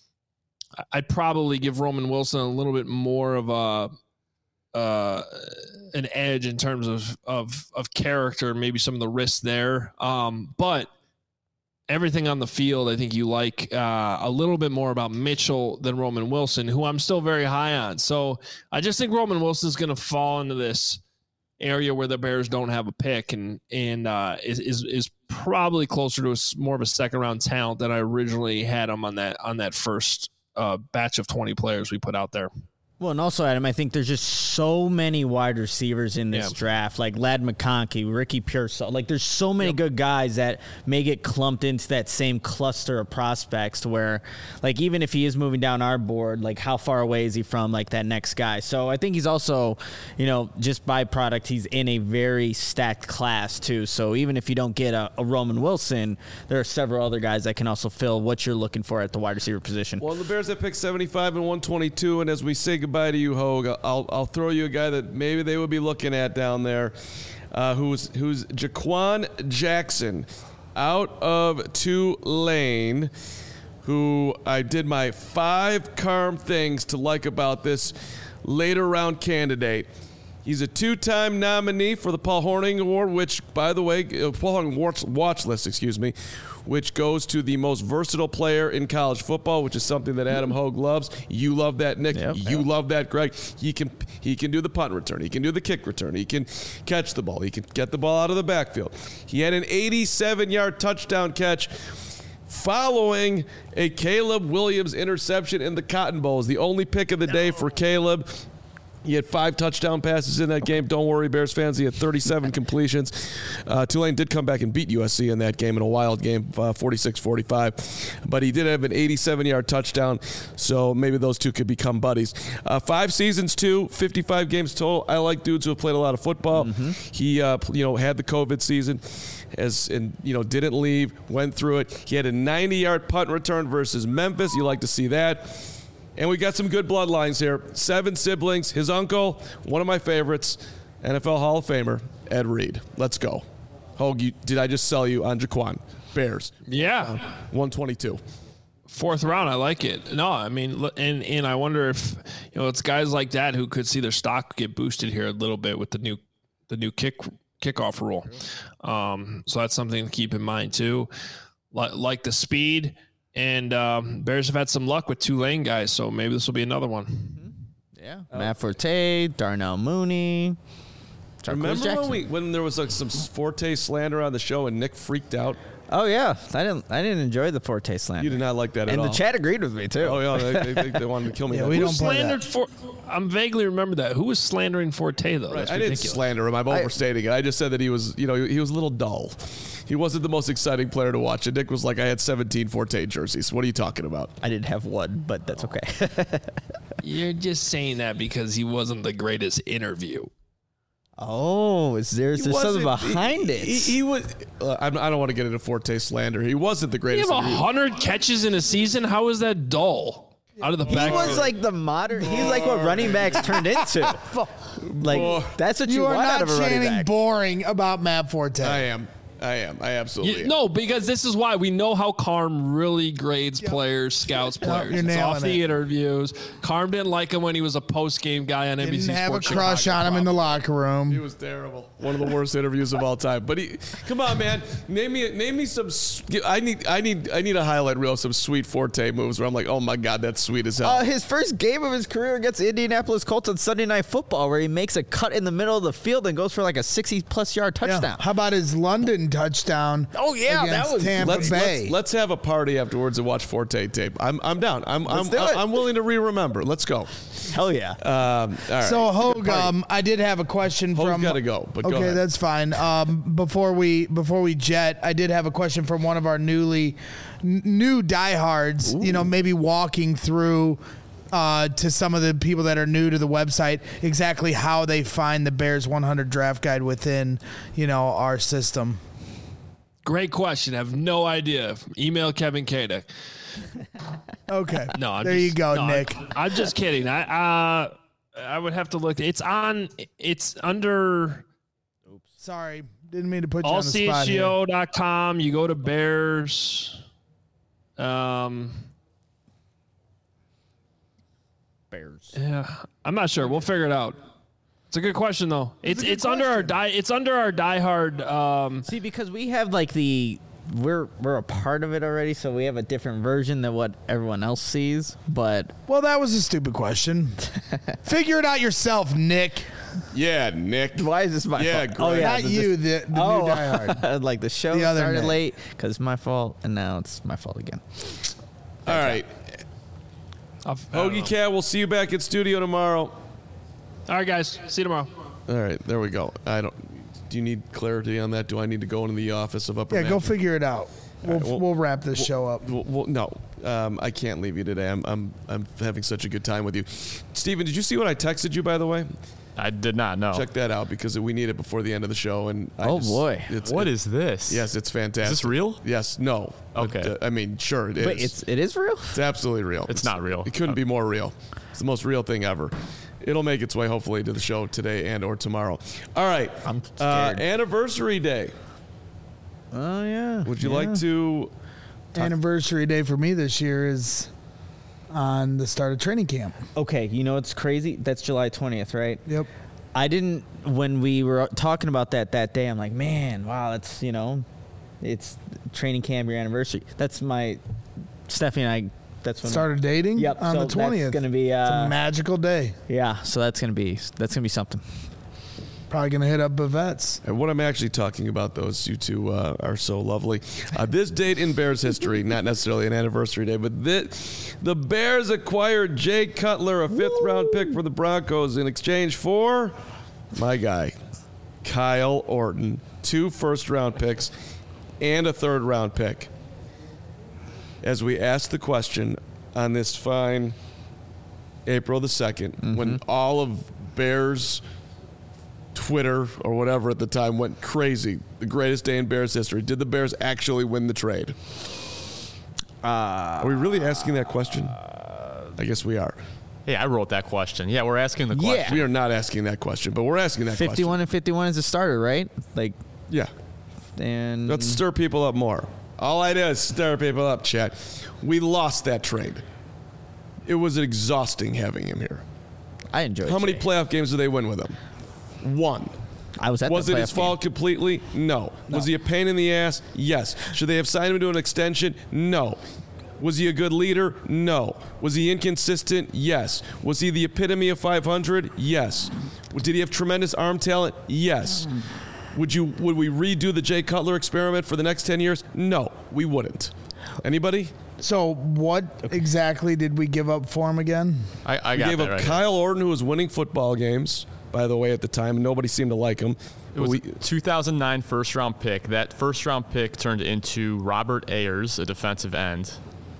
I'd probably give Roman Wilson a little bit more of a, uh, an edge in terms of, of, of character, maybe some of the risks there. Um, but everything on the field, I think you like uh, a little bit more about Mitchell than Roman Wilson, who I'm still very high on. So I just think Roman Wilson is going to fall into this area where the Bears don't have a pick, and and uh, is, is is probably closer to a, more of a second round talent than I originally had him on that on that first uh, batch of twenty players we put out there. Well, and also, Adam, I think there's just so many wide receivers in this yeah. draft, like Ladd McConkey, Ricky Pearsall. Like, there's so many yep. good guys that may get clumped into that same cluster of prospects to where, like, even if he is moving down our board, like, how far away is he from, like, that next guy? So I think he's also, you know, just byproduct, he's in a very stacked class, too. So even if you don't get a, a Roman Wilson, there are several other guys that can also fill what you're looking for at the wide receiver position. Well, the Bears have picked seventy-five and one twenty-two, and as we say goodbye Goodbye to you, Hogue. I'll I'll throw you a guy that maybe they would be looking at down there, uh, who's who's Jaquan Jackson, out of Tulane, who I did my five Carm things to like about this later round candidate. He's a two-time nominee for the Paul Hornung Award, which, by the way, uh, Paul Hornung watch, watch list, excuse me, which goes to the most versatile player in college football, which is something that Adam Hogue loves. You love that, Nick. Yep, you yep. love that, Greg. He can he can do the punt return. He can do the kick return. He can catch the ball. He can get the ball out of the backfield. He had an eighty-seven-yard touchdown catch following a Caleb Williams interception in the Cotton Bowl. It was the only pick of the day for Caleb. He had five touchdown passes in that game. Don't worry, Bears fans. He had thirty-seven completions. Uh, Tulane did come back and beat U S C in that game in a wild game, uh, forty-six forty-five. But he did have an eighty-seven-yard touchdown, so maybe those two could become buddies. Uh, five seasons, too, fifty-five games total. I like dudes who have played a lot of football. Mm-hmm. He, uh, you know, had the COVID season, as and you know, didn't leave, went through it. He had a ninety-yard punt return versus Memphis. You like to see that. And we got some good bloodlines here. Seven siblings. His uncle, one of my favorites, N F L Hall of Famer, Ed Reed. Let's go. Hogue, you, did I just sell you on Jaquan? Bears. Yeah. Uh, one twenty-two. Fourth round, I like it. No, I mean, and and I wonder if, you know, it's guys like that who could see their stock get boosted here a little bit with the new the new kick kickoff rule. Um, so that's something to keep in mind too. Like, like the speed. And um, Bears have had some luck with Tulane guys, so maybe this will be another one. Mm-hmm. Yeah. Oh. Matt Forte, Darnell Mooney. Remember when, we, when there was like some Forte slander on the show and Nick freaked out? Oh yeah, I didn't. I didn't enjoy the Forte slander. You did not like that at and all. And the chat agreed with me too. Oh yeah, they, they, they wanted to kill me. Yeah, that. we Who don't play slandered that. For, I'm vaguely remember that. Who was slandering Forte though? Right. That's I ridiculous. didn't slander him. I'm overstating it. I just said that he was, you know, he, he was a little dull. He wasn't the most exciting player to watch. And Nick was like, I had seventeen Forte jerseys. What are you talking about? I did have one, but that's okay. You're just saying that because he wasn't the greatest interview. Oh, is there is there something behind he, it? He, he was. Uh, I don't want to get into Forte slander. He wasn't the greatest. You have a hundred catches in a season. How is that dull? Out of the he back. was like the modern. He's like what running backs turned into. Like that's what you, You are want out not of a running chanting back. boring about Matt Forte. I am. I am. I absolutely You, am. no, because this is why we know how Carm really grades Yep. players, scouts players. you're It's nailing off the it. interviews. Carm didn't like him when he was a post-game guy on N B C Didn't have Sports a crush Chicago, on him in the probably. locker room. He was terrible. One of the worst interviews of all time. But he, come on, man, name me, name me some. I need, I need, I need a highlight reel of some sweet Forte moves where I'm like, oh my god, that's sweet as hell. Uh, his first game of his career against the Indianapolis Colts on Sunday Night Football, where he makes a cut in the middle of the field and goes for like a sixty-plus yard touchdown. Yeah. How about his London touchdown? Oh, yeah, that against was- Tampa let's, Bay. let's let's have a party afterwards and watch Forte tape. I'm I'm down. I'm I'm do it. I'm willing to re-remember. Let's go. Hell yeah. Um, all right. So Hogue, um, I did have a question Hogue's from. gotta go, but go okay, ahead. that's fine. Um, before we before we jet, I did have a question from one of our newly n- new diehards. You know, maybe walking through. Uh, to some of the people that are new to the website, exactly how they find the Bears one hundred draft guide within, you know, our system. Great question. I have no idea. Email Kevin Kadek. Okay. No, I'm there just, you go, no, Nick. I'm, I'm just kidding. I uh, I would have to look. It's on. It's under Sorry, didn't mean to put you on all the c spot h g here. o dot com. You go to Bears. Um. Bears. Yeah, I'm not sure. We'll figure it out. It's a good question though. It's it's under our die. It's under our diehard. Um, See, because we have like the we're we're a part of it already, so we have a different version than what everyone else sees. But Well, that was a stupid question. Figure it out yourself, Nick. Yeah, Nick. why is this my Yeah, fault? Greg. Oh yeah, Not the- you, the, the oh, new diehard. like the show The other started Nick. late because it's my fault, and now it's my fault again. All right. I've- I don't know. Hoagie Cat, we'll see you back at studio tomorrow. All right, guys. See you tomorrow. All right, there we go. I don't. Do you need clarity on that? Do I need to go into the office of upper? Yeah, go management? figure it out. We'll, right, well- we'll wrap this show up. Well, well, no, um, I can't leave you today. I'm, I'm, I'm having such a good time with you, Steven. Did you see what I texted you, by the way? I did not know. Check that out because we need it before the end of the show. And I Oh, just- boy. it's, What it- is this? Yes, it's fantastic. Is this real? Yes. No. But, Okay. uh, I mean, sure, it is. Wait, it's it is real. It's absolutely real. It's not real. It couldn't be more real. It's the most real thing ever. It'll make its way hopefully to the show today and or tomorrow. All right. I'm Uh, scared. anniversary day. Oh yeah. Would you yeah. like to? Anniversary day for me this year is on the start of training camp. Okay, you know what's crazy? That's July twentieth, right? Yep. I didn't when we were talking about that that day. I'm like, man, wow, that's you know, it's training camp, your anniversary. That's my Stephanie and I. That's when Started dating Yep, on so the twentieth. That's gonna be It's uh, a magical day. yeah. So that's gonna be that's gonna be something. Probably going to hit up Bavets. And what I'm actually talking about, those you two uh, are so lovely. Uh, this date in Bears history, not necessarily an anniversary day, but this, the Bears acquired Jay Cutler, a fifth-round pick for the Broncos, in exchange for my guy, Kyle Orton, two first-round picks and a third-round pick. As we asked the question on this fine April the second, mm-hmm. when all of Bears Twitter or whatever at the time went crazy, the greatest day in Bears history, did the Bears actually win the trade? Uh, are we really asking that question? I guess we are. Hey, I wrote that question. Yeah, we're asking the question. Yeah. We are not asking that question, but we're asking that fifty-one question. fifty-one and fifty-one is a starter, right? Like, yeah. And let's stir people up more. All I do is stir people up, chat. We lost that trade. It was exhausting having him here. I enjoyed. How many Jay. playoff games did they win with him? One. I was at Was the it his playoff fault game. completely? No. No. Was he a pain in the ass? Yes. Should they have signed him to an extension? No. Was he a good leader? No. Was he inconsistent? Yes. Was he the epitome of five hundred? Yes. Did he have tremendous arm talent? Yes. Would you? Would we redo the Jay Cutler experiment for the next ten years? No, we wouldn't. Anybody? So what exactly did we give up for him again? I, I We got gave that up right Kyle Orton, who was winning football games, by the way, at the time, and nobody seemed to like him. It was we, a two thousand nine first round pick. That first round pick turned into Robert Ayers, a defensive end.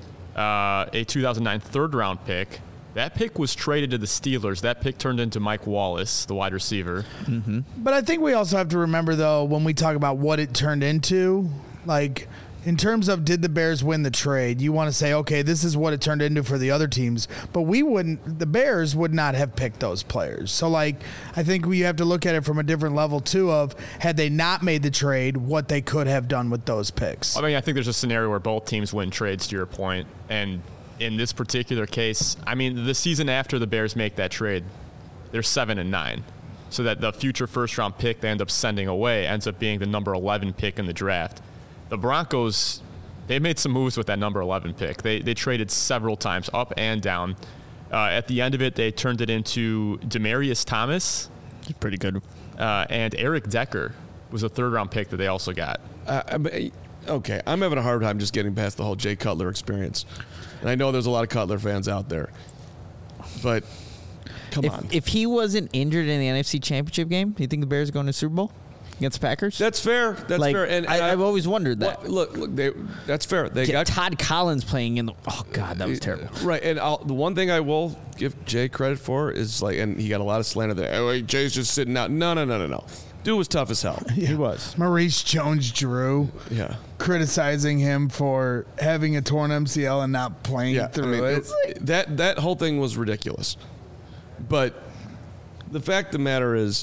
Uh, a two thousand nine third round pick. That pick was traded to the Steelers. That pick turned into Mike Wallace, the wide receiver. Mm-hmm. But I think we also have to remember, though, when we talk about what it turned into, like in terms of did the Bears win the trade, you want to say, okay, this is what it turned into for the other teams. But we wouldn't, the Bears would not have picked those players. So, like, I think we have to look at it from a different level, too, of had they not made the trade, what they could have done with those picks. I mean, I think there's a scenario where both teams win trades, to your point. And in this particular case, I mean, the season after the Bears make that trade, they're seven and nine. So that the future first round pick they end up sending away ends up being the number eleven pick in the draft. The Broncos, they made some moves with that number eleven pick. They they traded several times, up and down. Uh, at the end of it, they turned it into Demaryius Thomas. He's pretty good. Uh, and Eric Decker was a third round pick that they also got. Uh, I mean, okay, I'm having a hard time just getting past the whole Jay Cutler experience. And I know there's a lot of Cutler fans out there. But, come if, on. If he wasn't injured in the N F C Championship game, do you think the Bears are going to the Super Bowl against the Packers? That's fair. That's like, fair. And, and I, I've always wondered that. Well, look, look, they, that's fair. They Get got Todd Collins playing in the. Oh God, that was terrible. Right, and I'll, the one thing I will give Jay credit for is like, and he got a lot of slander there. Oh, wait, Jay's just sitting out. No, no, no, no, no. Dude was tough as hell. Yeah. He was. Maurice Jones-Drew Yeah. criticizing him for having a torn M C L and not playing Yeah, through I mean, it. it- that that whole thing was ridiculous. But the fact of the matter is,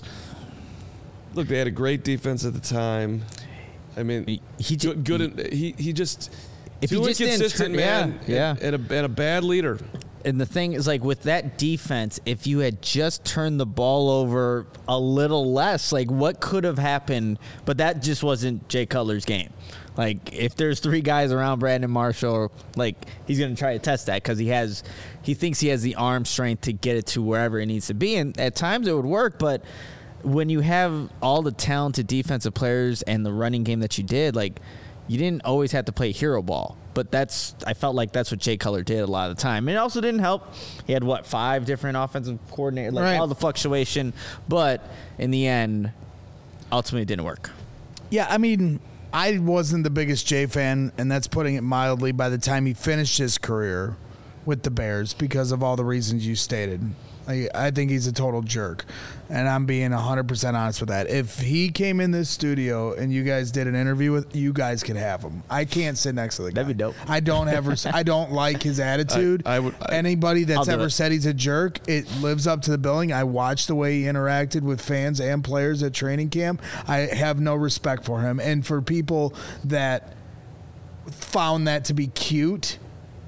look, they had a great defense at the time. I mean, He- he good. ju- good in- he he just If too he just didn't inconsistent, turn- man. yeah, and, yeah. and a and a bad leader. And the thing is, like, with that defense, if you had just turned the ball over a little less, like, what could have happened? But that just wasn't Jay Cutler's game. Like, if there's three guys around Brandon Marshall, like, he's going to try to test that because he has, he thinks he has the arm strength to get it to wherever it needs to be. And at times it would work, but when you have all the talented defensive players and the running game that you did, like, you didn't always have to play hero ball. But that's, I felt like that's what Jay Cutler did a lot of the time. And it also didn't help. He had, what, five different offensive coordinators, like Right. all the fluctuation. But in the end, ultimately it didn't work. Yeah, I mean, I wasn't the biggest Jay fan, and that's putting it mildly, by the time he finished his career with the Bears because of all the reasons you stated. I, I think he's a total jerk, and I'm being one hundred percent honest with that. If he came in this studio and you guys did an interview with, you guys could have him. I can't sit next to the guy. That'd be dope. I don't ever. I don't like his attitude. I would- I- Anybody I'll that's do ever it. said he's a jerk, it lives up to the billing. I watched the way he interacted with fans and players at training camp. I have no respect for him. And for people that found that to be cute,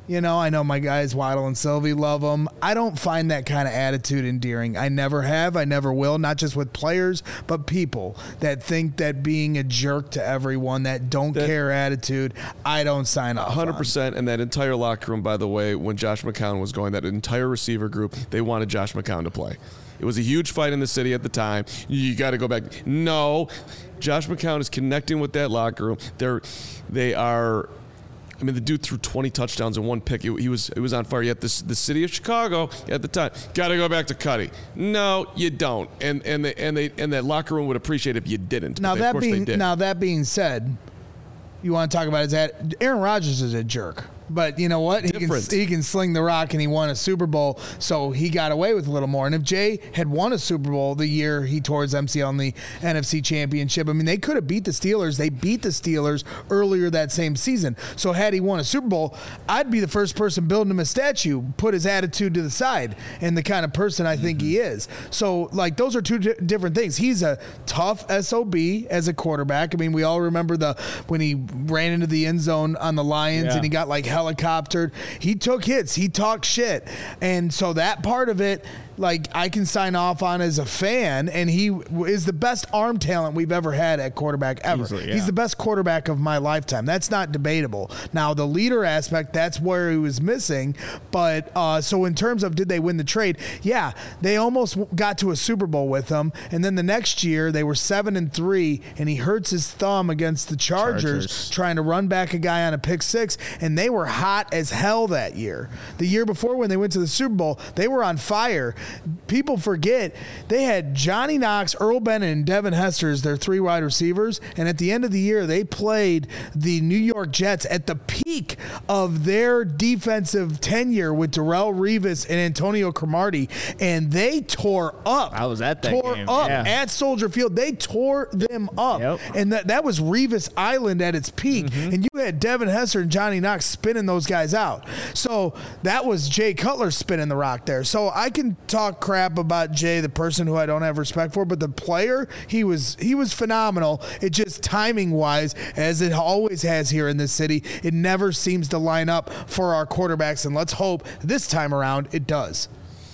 You know, I know my guys Waddle and Sylvie love him. I don't find that kind of attitude endearing. I never have. I never will. Not just with players, but people that think that being a jerk to everyone, that don't that, care attitude, I don't sign up. one hundred percent. And that entire locker room, by the way, when Josh McCown was going, that entire receiver group, they wanted Josh McCown to play. It was a huge fight in the city at the time. You got to go back. No, Josh McCown is connecting with that locker room. They're, they are. I mean, the dude threw twenty touchdowns in one pick. He, he was he was on fire. Yet this, the city of Chicago at the time, got to go back to Cuddy. No, you don't. And and they, and they and that locker room would appreciate it if you didn't. Now they, that being now that being said, you want to talk about is that Aaron Rodgers is a jerk. But you know what? He can, he can sling the rock, and he won a Super Bowl, so he got away with a little more. And if Jay had won a Super Bowl the year he tore his M C L in the N F C Championship, I mean, they could have beat the Steelers. They beat the Steelers earlier that same season. So had he won a Super Bowl, I'd be the first person building him a statue, put his attitude to the side, and the kind of person I think mm-hmm. he is. So, like, those are two di- different things. He's a tough S O B as a quarterback. I mean, we all remember the when he ran into the end zone on the Lions, yeah. and he got, like, helicoptered. He took hits. He talked shit. And so that part of it, like, I can sign off on as a fan, and he is the best arm talent we've ever had at quarterback ever. Easily, yeah. He's the best quarterback of my lifetime. That's not debatable. Now, the leader aspect, that's where he was missing. But uh, so in terms of did they win the trade, yeah, they almost got to a Super Bowl with him. And then the next year, they were seven and three, and he hurts his thumb against the Chargers, Chargers. trying to run back a guy on a pick six, and they were hot as hell that year. The year before when they went to the Super Bowl, they were on fire. People forget they had Johnny Knox, Earl Bennett, and Devin Hester as their three wide receivers, and at the end of the year, they played the New York Jets at the peak of their defensive tenure with Darrelle Revis and Antonio Cromartie, and they tore up. I was at that tore game. up yeah. at Soldier Field. They tore them up, yep. and that, that was Revis Island at its peak, mm-hmm. and you had Devin Hester and Johnny Knox spinning those guys out. So that was Jay Cutler spinning the rock there. So I can talk crap about Jay, the person who I don't have respect for, but the player, he was he was phenomenal. It just timing wise, as it always has here in this city, it never seems to line up for our quarterbacks, and let's hope this time around it does.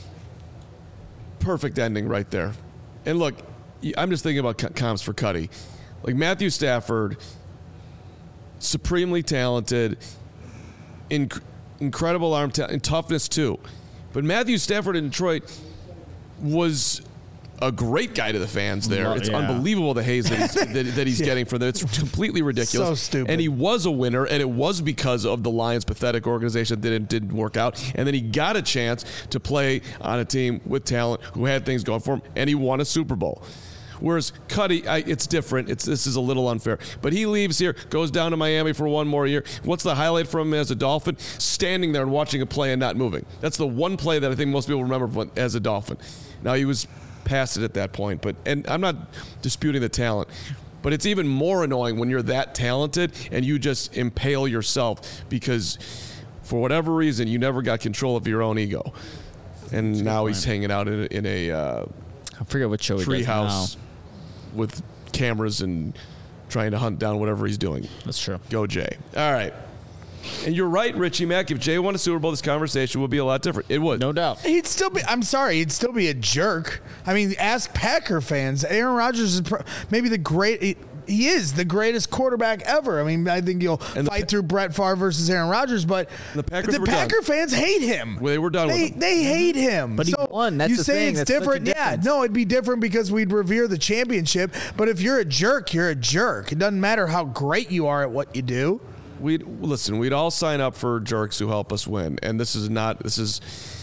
Perfect ending right there. And look, I'm just thinking about comps for Cuddy. Like Matthew Stafford, supremely talented, inc- incredible arm ta- and toughness too. But Matthew Stafford in Detroit was a great guy to the fans there. It's yeah. unbelievable the haze that he's, that, that he's yeah. getting for them. It's completely ridiculous. So stupid. And he was a winner, and it was because of the Lions' pathetic organization that didn't, didn't work out. And then he got a chance to play on a team with talent who had things going for him, and he won a Super Bowl. Whereas Cuddy, I, it's different. It's this is a little unfair. But he leaves here, goes down to Miami for one more year. What's the highlight from him as a Dolphin? Standing there and watching a play and not moving. That's the one play that I think most people remember as a Dolphin. Now, he was past it at that point, but and I'm not disputing the talent. But it's even more annoying when you're that talented and you just impale yourself because for whatever reason you never got control of your own ego. And now he's hanging out in a, in a uh, I forget what show he does treehouse now. With cameras and trying to hunt down whatever he's doing. That's true. Go Jay. All right. And you're right, Richie Mack. If Jay won a Super Bowl, this conversation would be a lot different. It would. No doubt. He'd still be, I'm sorry, he'd still be a jerk. I mean, ask Packer fans. Aaron Rodgers is pro, maybe the great, he, he is the greatest quarterback ever. I mean, I think you'll and fight the, through Brett Favre versus Aaron Rodgers, but the, Packers the were Packer done. fans hate him. Well, they were done they, with him. They hate him. But he so won. That's you the say thing. it's That's different. Yeah, no, it'd be different because we'd revere the championship. But if you're a jerk, you're a jerk. It doesn't matter how great you are at what you do. We'd listen. We'd all sign up for jerks who help us win, and this is not. This is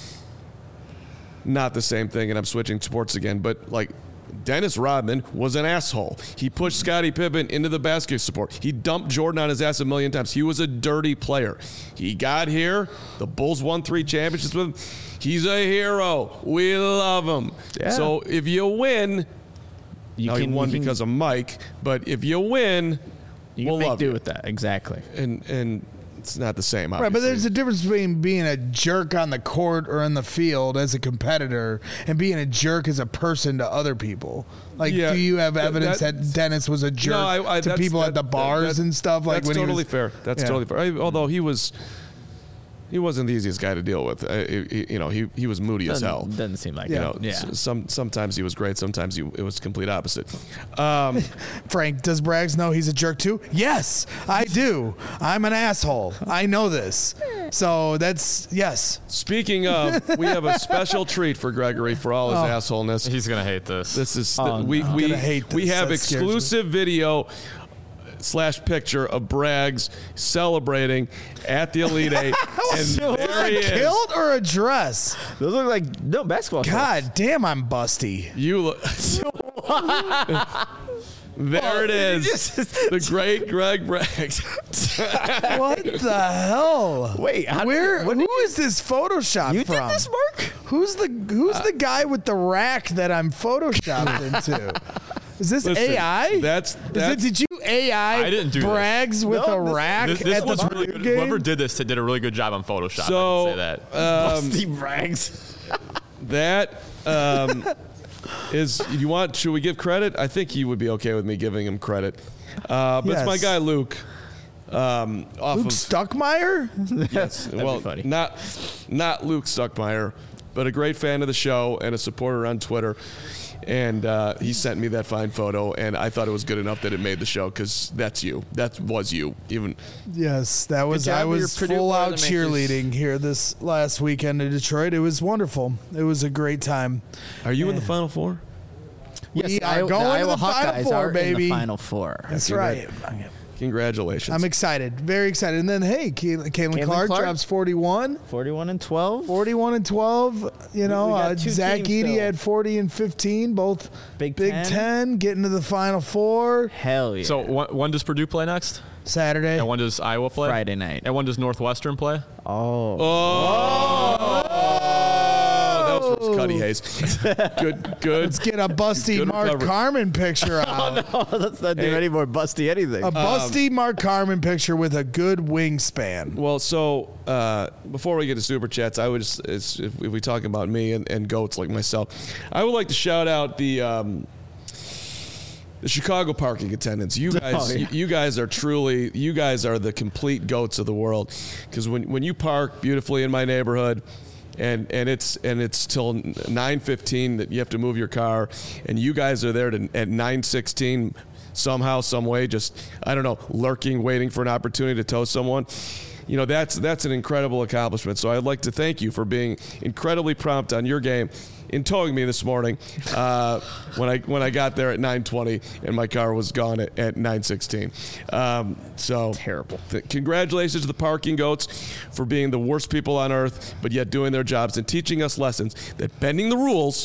not the same thing. And I'm switching sports again, but like Dennis Rodman was an asshole. He pushed Scottie Pippen into the basket support. He dumped Jordan on his ass a million times. He was a dirty player. He got here. The Bulls won three championships with him. He's a hero. We love him. Yeah. So if you win, you now can, he won you can, because of Mike. But if you win. You we'll can make love do you. with that. Exactly. And and it's not the same, obviously. Right, but there's a difference between being a jerk on the court or in the field as a competitor and being a jerk as a person to other people. Like, yeah, do you have evidence that, that Dennis was a jerk no, I, I, to people that, at the bars that, and stuff? Like That's when totally he was, fair. That's yeah. totally fair. I, although he was... he wasn't the easiest guy to deal with. Uh, he, he- you know, he he was moody as Doesn't, hell. doesn't seem like You it. know, Yeah. s- some sometimes he was great, sometimes he, it was complete opposite. Um, Frank, does Braggs know he's a jerk too? Yes, I do. I'm an asshole. I know this. So that's yes. speaking of, we have a special treat for Gregory for all his Oh. assholeness. He's gonna hate this. This is Oh, the, we no. we I'm gonna hate we this. have That scares me. exclusive video slash picture of Braggs celebrating at the Elite Eight, and there he A is. kilt or a dress? Those look like no basketball. God damn, I'm busty. You look. There it is, the great Greg Braggs. What the hell? Wait, how- where? what Who did is this Photoshop You from? did this, Mark? Who's the Who's the guy with the rack that I'm photoshopped into? Is this Listen, A I? That's Is that's it, did you A I? I didn't do this. Braggs with No, a this- rack This, this at was the really Purdue good. game? Whoever did this did a really good job on Photoshop. So- I can say that. um, Steve Braggs. that um, is. You want? Should we give credit? I think he would be okay with me giving him credit. Uh, but it's my Yes. guy Luke. Um, off Luke of Stuckmeyer? yes, well, be funny. not not Luke Stuckmeyer, but a great fan of the show and a supporter on Twitter. And uh, he sent me that fine photo, and I thought it was good enough that it made the show because that's you. That was you. Even Yes, that was. job I with your was Purdue full out Boilermakers. cheerleading here this last weekend in Detroit. It was wonderful. It was a great time. are you in the Final Four? We the are Iowa- going the to Iowa the Final Hawkeyes Four, are in baby. the Final Four. That's Congrats. right. Congratulations. I'm excited. Very excited. And then, hey, Caitlin, Caitlin Caitlin Clark, Clark? drops forty-one. Forty-one and twelve. forty-one and twelve. You know, we got uh, two Zach teams Edey still. had forty and fifteen, both Big Big Ten. Ten, getting to the Final Four Hell yeah. So when, when does Purdue play next? Saturday. And when does Iowa play? Friday night. And when does Northwestern play? Oh. Oh, that was from Cuddy Hayes. Good, good. Let's get a busty Good Mark recovery. Carmen picture out. Oh, let's not do Hey. any more busty anything. A busty Mark Carmen picture with a good wingspan. Well, so uh, before we get to super chats, I would just, it's, if we talk about me and, and goats like myself, I would like to shout out the um, the Chicago parking attendants. You guys, Oh, yeah. you, you guys are truly, you guys are the complete goats of the world. Because when when you park beautifully in my neighborhood, and and it's and it's till nine fifteen that you have to move your car, and you guys are there to, at nine sixteen somehow, some way, just I don't know, lurking, waiting for an opportunity to tow someone. You know, that's that's an incredible accomplishment. So I'd like to thank you for being incredibly prompt on your game in towing me this morning uh, when I when I got there at nine twenty and my car was gone at, at nine sixteen. Um, so Terrible. th- congratulations to the parking goats for being the worst people on earth, but yet doing their jobs and teaching us lessons that bending the rules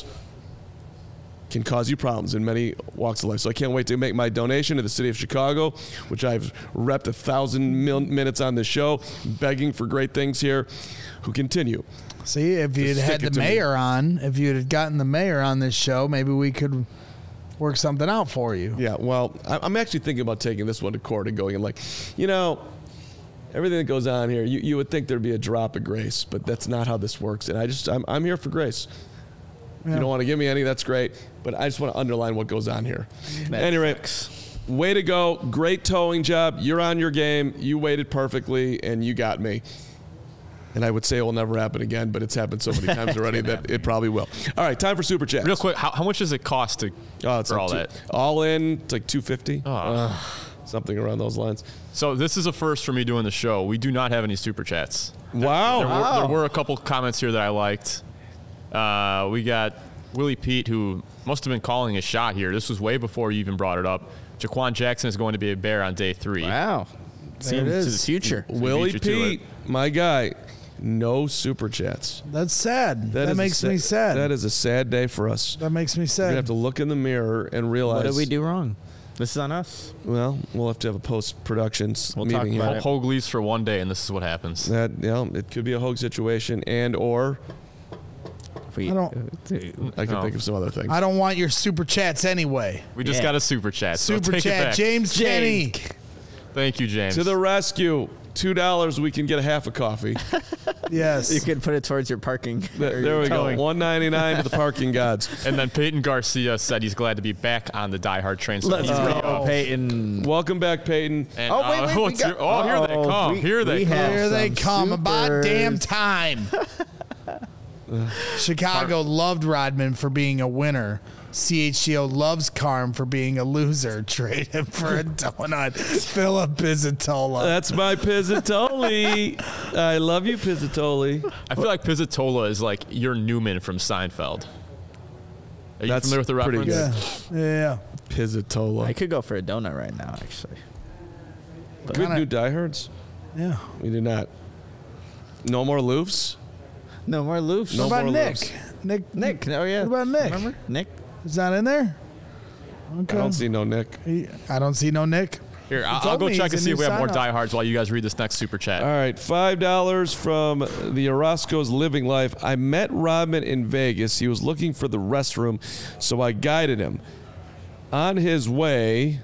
can cause you problems in many walks of life. So I can't wait to make my donation to the city of Chicago, which I've repped a thousand mil- minutes on this show, begging for great things here, who continue. See, if you had Just had stick the it to me. mayor on, if you had gotten the mayor on this show, maybe we could work something out for you. Yeah, well, I- I'm actually thinking about taking this one to court and going and like, you know, everything that goes on here, you, you would think there'd be a drop of grace, but that's not how this works. And I just, I'm, I'm here for grace. If you don't want to give me any, that's great. But I just want to underline what goes on here. Anyway, way to go. Great towing job. You're on your game. You waited perfectly, and you got me. And I would say it will never happen again, but it's happened so many times already that it probably will. All right, time for Super Chat. Real quick, how, how much does it cost to Oh, it's for like all two- that? All in, it's like two fifty. Oh. Something around those lines. So this is a first for me doing the show. We do not have any super chats. Wow. There, were, there were a couple comments here that I liked. Uh, we got Willie Pete, who must have been calling a shot here. This was way before you even brought it up. Jaquan Jackson is going to be a Bear on day three. Wow. See it him to is. the future. Willie beat you to Pete, my guy, no Super Chats. That's sad. That, is a makes sa- me sad. That is a sad day for us. that makes me We're sad. going to have to look in the mirror and realize. What did we do wrong? This is on us. Well, we'll have to have a post-production We'll meeting talk here. about it. Hoagleys for one day, and this is what happens. That, you know, it could be a Hogue situation, and or If we- I don't- I can No. think of some other things. I don't want your super chats anyway. We just Yeah. got a super chat. so Super take it chat, back. James Kenny. Thank you, James. To the rescue. Two dollars, we can get a half a coffee. Yes. You could put it towards your parking. There, there we go. one ninety-nine to the parking gods. And then Peyton Garcia said he's glad to be back on the Die Hard train. So Let's he's go, gonna- Peyton. Welcome back, Peyton. And, Oh, wait, uh, wait, we what's got- your- oh, here they Uh-oh. come. We- here they we come. have Here they some come. About supers. damn time. Chicago loved Rodman for being a winner. C H G O loves Carm for being a loser. Trade him for a donut. Philip Pizzatola. That's my Pizzatoli. I love you, Pizzatoli. I feel like Pizzatola is like your Newman from Seinfeld. Are you That's familiar with the pretty reference? Yeah. Yeah. Pizzatola. I could go for a donut right now, actually. Do we have new diehards? Yeah. We did not. No more loofs? No more loofs. No What about more Nick? loofs. Nick? Nick. Oh, yeah. What about Nick? Remember? Nick? Is that in there? Okay. I don't see no Nick. He- I don't see no Nick. Here, I'll, told I'll go me check he's and a see new if we have more sign-up. diehards while you guys read this next super chat. All right, five dollars from the Orozco's Living Life. I met Rodman in Vegas. He was looking for the restroom, so I guided him. On his way,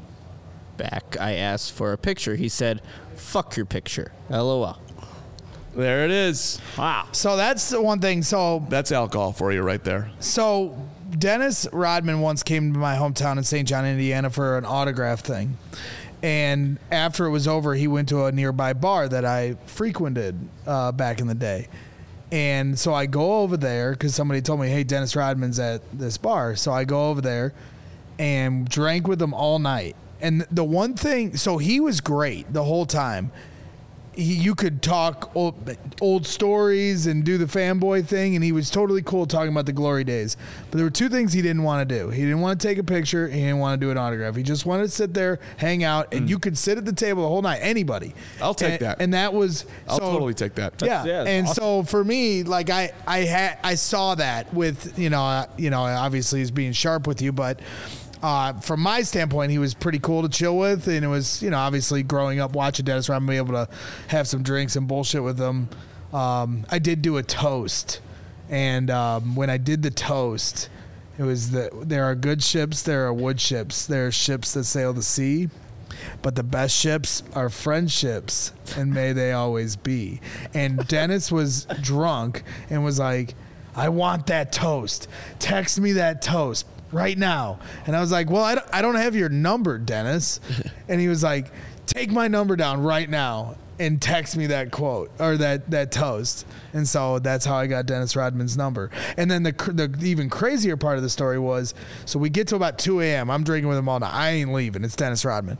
Back, I asked for a picture. He said, fuck your picture. LOL. there it is. Wow. So that's the one thing. So That's alcohol for you right there. So Dennis Rodman once came to my hometown in Saint John, Indiana for an autograph thing. And after it was over, he went to a nearby bar that I frequented uh, back in the day. And so I go over there because somebody told me, hey, Dennis Rodman's at this bar. So I go over there and drank with him all night. And the one thing, so he was great the whole time. He, you could talk old, old stories and do the fanboy thing, and he was totally cool talking about the glory days. But there were two things he didn't want to do. He didn't want to take a picture. He didn't want to do an autograph. He just wanted to sit there, hang out, and you could sit at the table the whole night. Anybody. I'll take and, that. And that was I'll so, totally take that. Yeah, yeah, that's and awesome. so for me, like I, I had, I saw that with you know, uh, you know, obviously he's being sharp with you, but uh, from my standpoint, he was pretty cool to chill with, and it was you know, obviously growing up watching Dennis Rodman be able to have some drinks and bullshit with him. Um, I did do a toast, and um, when I did the toast, it was that there are good ships, there are wood ships, there are ships that sail the sea. But the best ships are friendships, and may they always be. And Dennis was drunk and was like, I want that toast. Text me that toast right now. And I was like, well, I don't, I don't have your number, Dennis. And he was like, take my number down right now and text me that quote or that, that toast. And so that's how I got Dennis Rodman's number. And then the, cr- the even crazier part of the story was, so we get to about two a.m. I'm drinking with him all night. I ain't leaving. It's Dennis Rodman.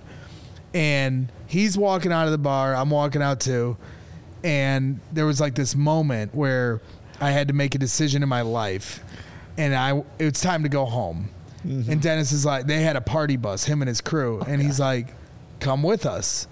And he's walking out of the bar. I'm walking out too. And there was like this moment where I had to make a decision in my life. And I, it's time to go home. Mm-hmm. And Dennis is like, they had a party bus, him and his crew. And he's like, come with us.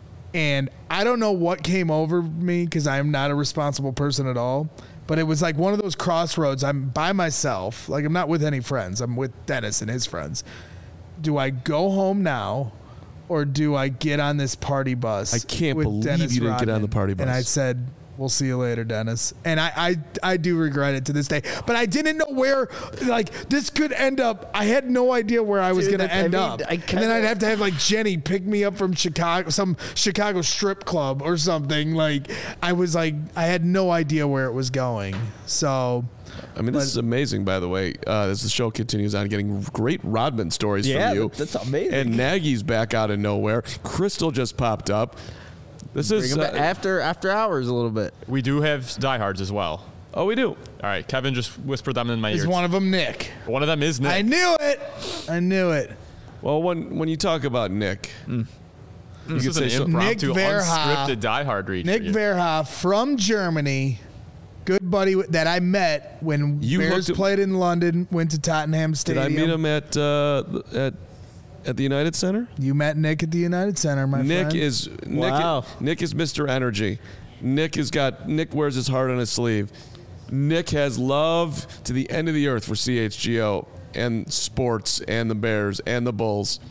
And I don't know what came over me because I'm not a responsible person at all. But it was like one of those crossroads. I'm by myself. Like I'm not with any friends. I'm with Dennis and his friends. Do I go home now? Or do I get on this party bus? I can't with believe Dennis you didn't get on the Rodman? party bus. And I said, we'll see you later, Dennis. And I, I, I do regret it to this day. But I didn't know where, like, this could end up. I had no idea where I was Dude, going to I end mean, up. I and then kinda- I'd have to have, like, Jenny pick me up from Chicago, some Chicago strip club or something. Like, I was like, I had no idea where it was going. So... I mean, this is amazing, by the way. Uh, as the show continues on, getting great Rodman stories Yeah, from you. that's amazing. And Nagy's back out of nowhere. Crystal just popped up. This Bring is him uh, back after after hours a little bit. We do have diehards as well. oh, we do. All right, Kevin just whispered them in my is ear. one of them Nick? One of them is Nick. I knew it. I knew it. Well, when when you talk about Nick, this could is an say so- impromptu, Nick Verha. unscripted diehard read. Nick for you. Verha from Germany, good buddy that I met when You Bears hooked him- played in London, went to Tottenham did Stadium. I meet him at uh, at at the United Center? You met Nick at the United Center, my Nick friend. is Nick. Wow. Nick is Mister Energy. Nick has got Nick wears his heart on his sleeve. Nick has love to the end of the earth for C H G O and sports and the Bears and the Bulls.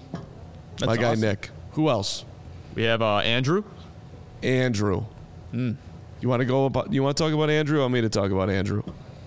My guy awesome. Nick. Who else? We have uh, Andrew. Andrew. Hmm. You want to go about? You want to talk about Andrew? I want me to talk about Andrew.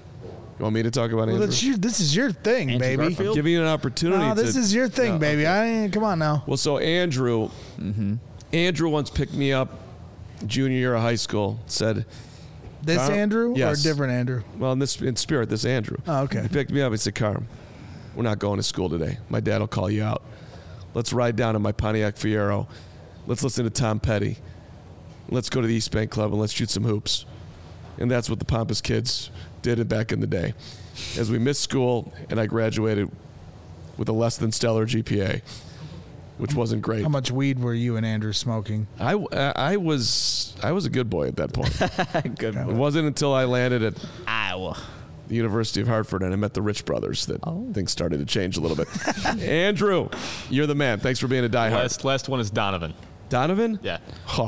You want me to talk about Well, Andrew? that's your, this is your thing, Andrew baby. Garfield? I'm giving you an opportunity. No, this to, is your thing, No, baby. okay. I come on now. Well, so Andrew, Andrew once picked me up junior year of high school. Said, This Carm? Andrew Yes. or a different Andrew? Well, in this in spirit, this Andrew. Oh, okay. He picked me up. He said, Carm, we're not going to school today. My dad will call you out. Let's ride down in my Pontiac Fiero. Let's listen to Tom Petty. Let's go to the East Bank Club and let's shoot some hoops. And that's what the Pompous kids did back in the day. As we missed school and I graduated with a less than stellar G P A, which wasn't great. How much weed were you and Andrew smoking? I, I was I was a good boy at that point. Good. It wasn't until I landed at Iowa. the University of Hartford and I met the Rich brothers that Oh. things started to change a little bit. Andrew, you're the man. Thanks for being a diehard. Last, last one is Donovan. Donovan? Yeah. Huh.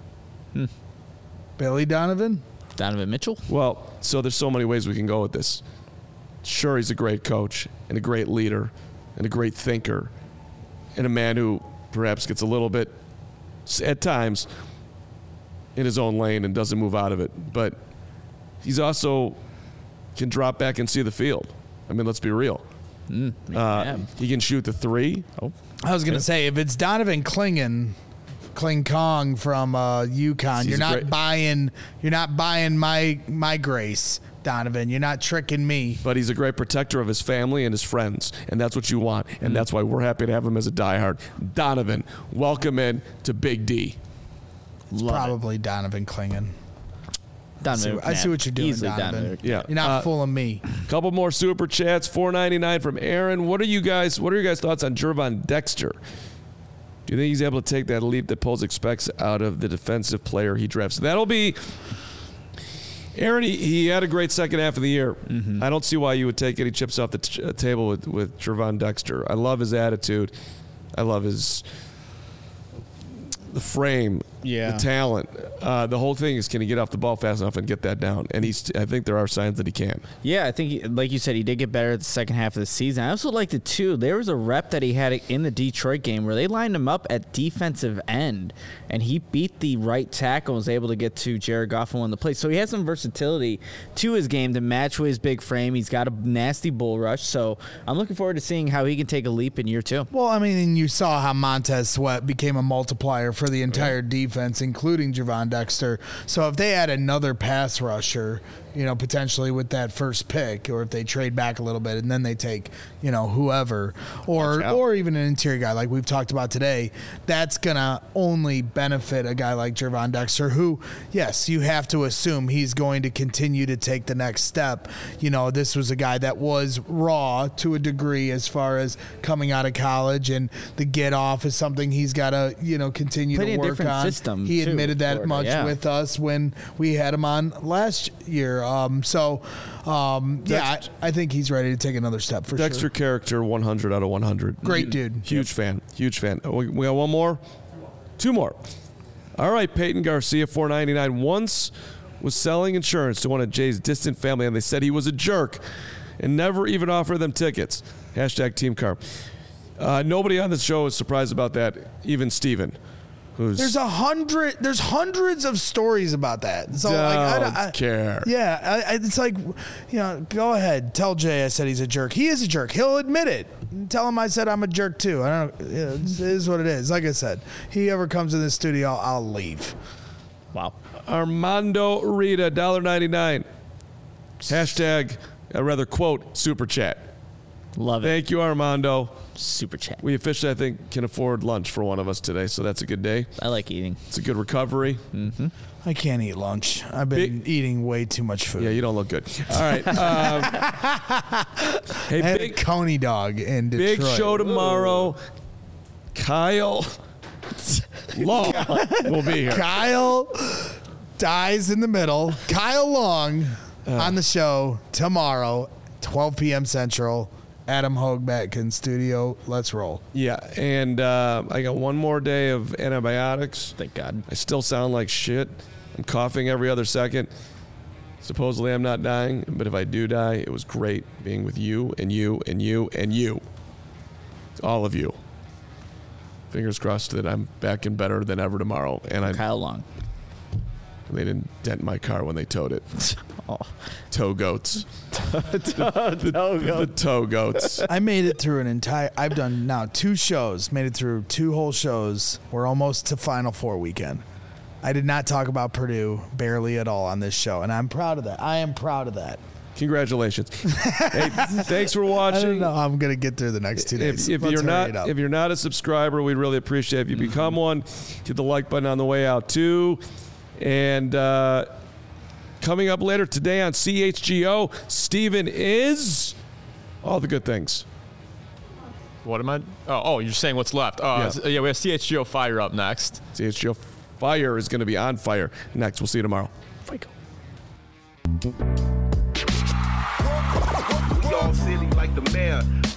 Billy Donovan? Donovan Mitchell. Well, so there's so many ways we can go with this. Sure, he's a great coach and a great leader and a great thinker and a man who perhaps gets a little bit, at times, in his own lane and doesn't move out of it. But he's also can drop back and see the field. I mean, let's be real. Mm, Uh, yeah. he can shoot the three. Oh, I was going to say, if it's Donovan Klingen, Kling Kong from uh, UConn, He's you're not great. buying. You're not buying my my grace, Donovan. You're not tricking me. But he's a great protector of his family and his friends, and that's what you want. And that's why we're happy to have him as a diehard. Donovan, welcome in to Big D. love Probably Donovan Klingen. it. Donovan. I see what you're doing, Easily Donovan. Yeah. You're not Uh, fooling me. Couple more super chats. four ninety-nine from Aaron. What are you guys? What are your guys' thoughts on Jervon Dexter? Do you think he's able to take that leap that Poles expects out of the defensive player he drafts? That'll be. Aaron, he, he had a great second half of the year. Mm-hmm. I don't see why you would take any chips off the t- uh, table with with Jervon Dexter. I love his attitude. I love his the frame, Yeah. the talent. Uh, the whole thing is, can he get off the ball fast enough and get that down? And he's. I think there are signs that he can. Yeah, I think, he, like you said, he did get better at the second half of the season. I also liked it, too. There was a rep that he had in the Detroit game where they lined him up at defensive end, and he beat the right tackle and was able to get to Jared Goff and won the play. So he has some versatility to his game to match with his big frame. He's got a nasty bull rush, so I'm looking forward to seeing how he can take a leap in year two. Well, I mean, and you saw how Montez Sweat became a multiplier for the entire defense, including Jervon Dexter. So if they add another pass rusher, you know, potentially with that first pick, or if they trade back a little bit and then they take, you know, whoever, or Watch out. or even an interior guy like we've talked about today, that's gonna only benefit a guy like Jervon Dexter, who, yes, you have to assume he's going to continue to take the next step. You know, this was a guy that was raw to a degree as far as coming out of college, and the get off is something he's got to, you know, continue Played to in a work different on. system, he too, admitted that Florida, much yeah. with us when we had him on last year. Um, so, um, yeah, Dex- I, I think he's ready to take another step for Dexter sure. character, one hundred out of one hundred. Great dude. Huge fan. Huge fan. Oh, We, we got one more? Two more. All right, Peyton Garcia, four ninety-nine. Once was selling insurance to one of Jay's distant family, and they said he was a jerk and never even offered them tickets. Hashtag Team Car. Uh, nobody on the show is surprised about that, even Steven, who's There's a hundred. There's hundreds of stories about that. So like, I, don't I, care. Yeah, I, I, it's like, you know, go ahead, tell Jay I said he's a jerk. He is a jerk. He'll admit it. Tell him I said I'm a jerk too. I don't. You know, it is what it is. Like I said, he ever comes in the studio, I'll leave. Wow. Armando Rita, one dollar ninety-nine. Hashtag, uh, rather quote, super chat. Love it. Thank you, Armando. Super chat. We officially, I think, can afford lunch for one of us today, so that's a good day. I like eating. It's a good recovery. I can't eat lunch. I've been Big- eating way too much food. Yeah, you don't look good. All right. Um, hey, I had big, a Coney dog in Detroit. big show tomorrow. Kyle Long will be here. Kyle dies in the middle. Kyle Long on the show tomorrow, twelve p.m. Central. Adam Hogue in studio. Let's roll. Yeah, and uh, I got one more day of antibiotics. Thank God. I still sound like shit. I'm coughing every other second. Supposedly I'm not dying, but if I do die, it was great being with you and you and you and you. All of you. Fingers crossed that I'm back and better than ever tomorrow. And I Kyle Long. they didn't dent my car when they towed it. Oh. Toe goats. The toe goats. I made it through an entire. I've done now two shows. Made it through two whole shows. We're almost to Final Four weekend. I did not talk about Purdue barely at all on this show, and I'm proud of that. I am proud of that. Congratulations. Hey, thanks for I don't watching. know how I'm going to get through the next two days. If, if Let's you're hurry not it up. if you're not a subscriber, we'd really appreciate it if you become one. Hit the like button on the way out too. And uh, coming up later today on C H G O, Steven is all the good things. What am I? Oh, oh you're saying what's left. Oh, Yeah. yeah, we have C H G O Fire up next. C H G O Fire is going to be on fire next. We'll see you tomorrow. We all silly like the mayor.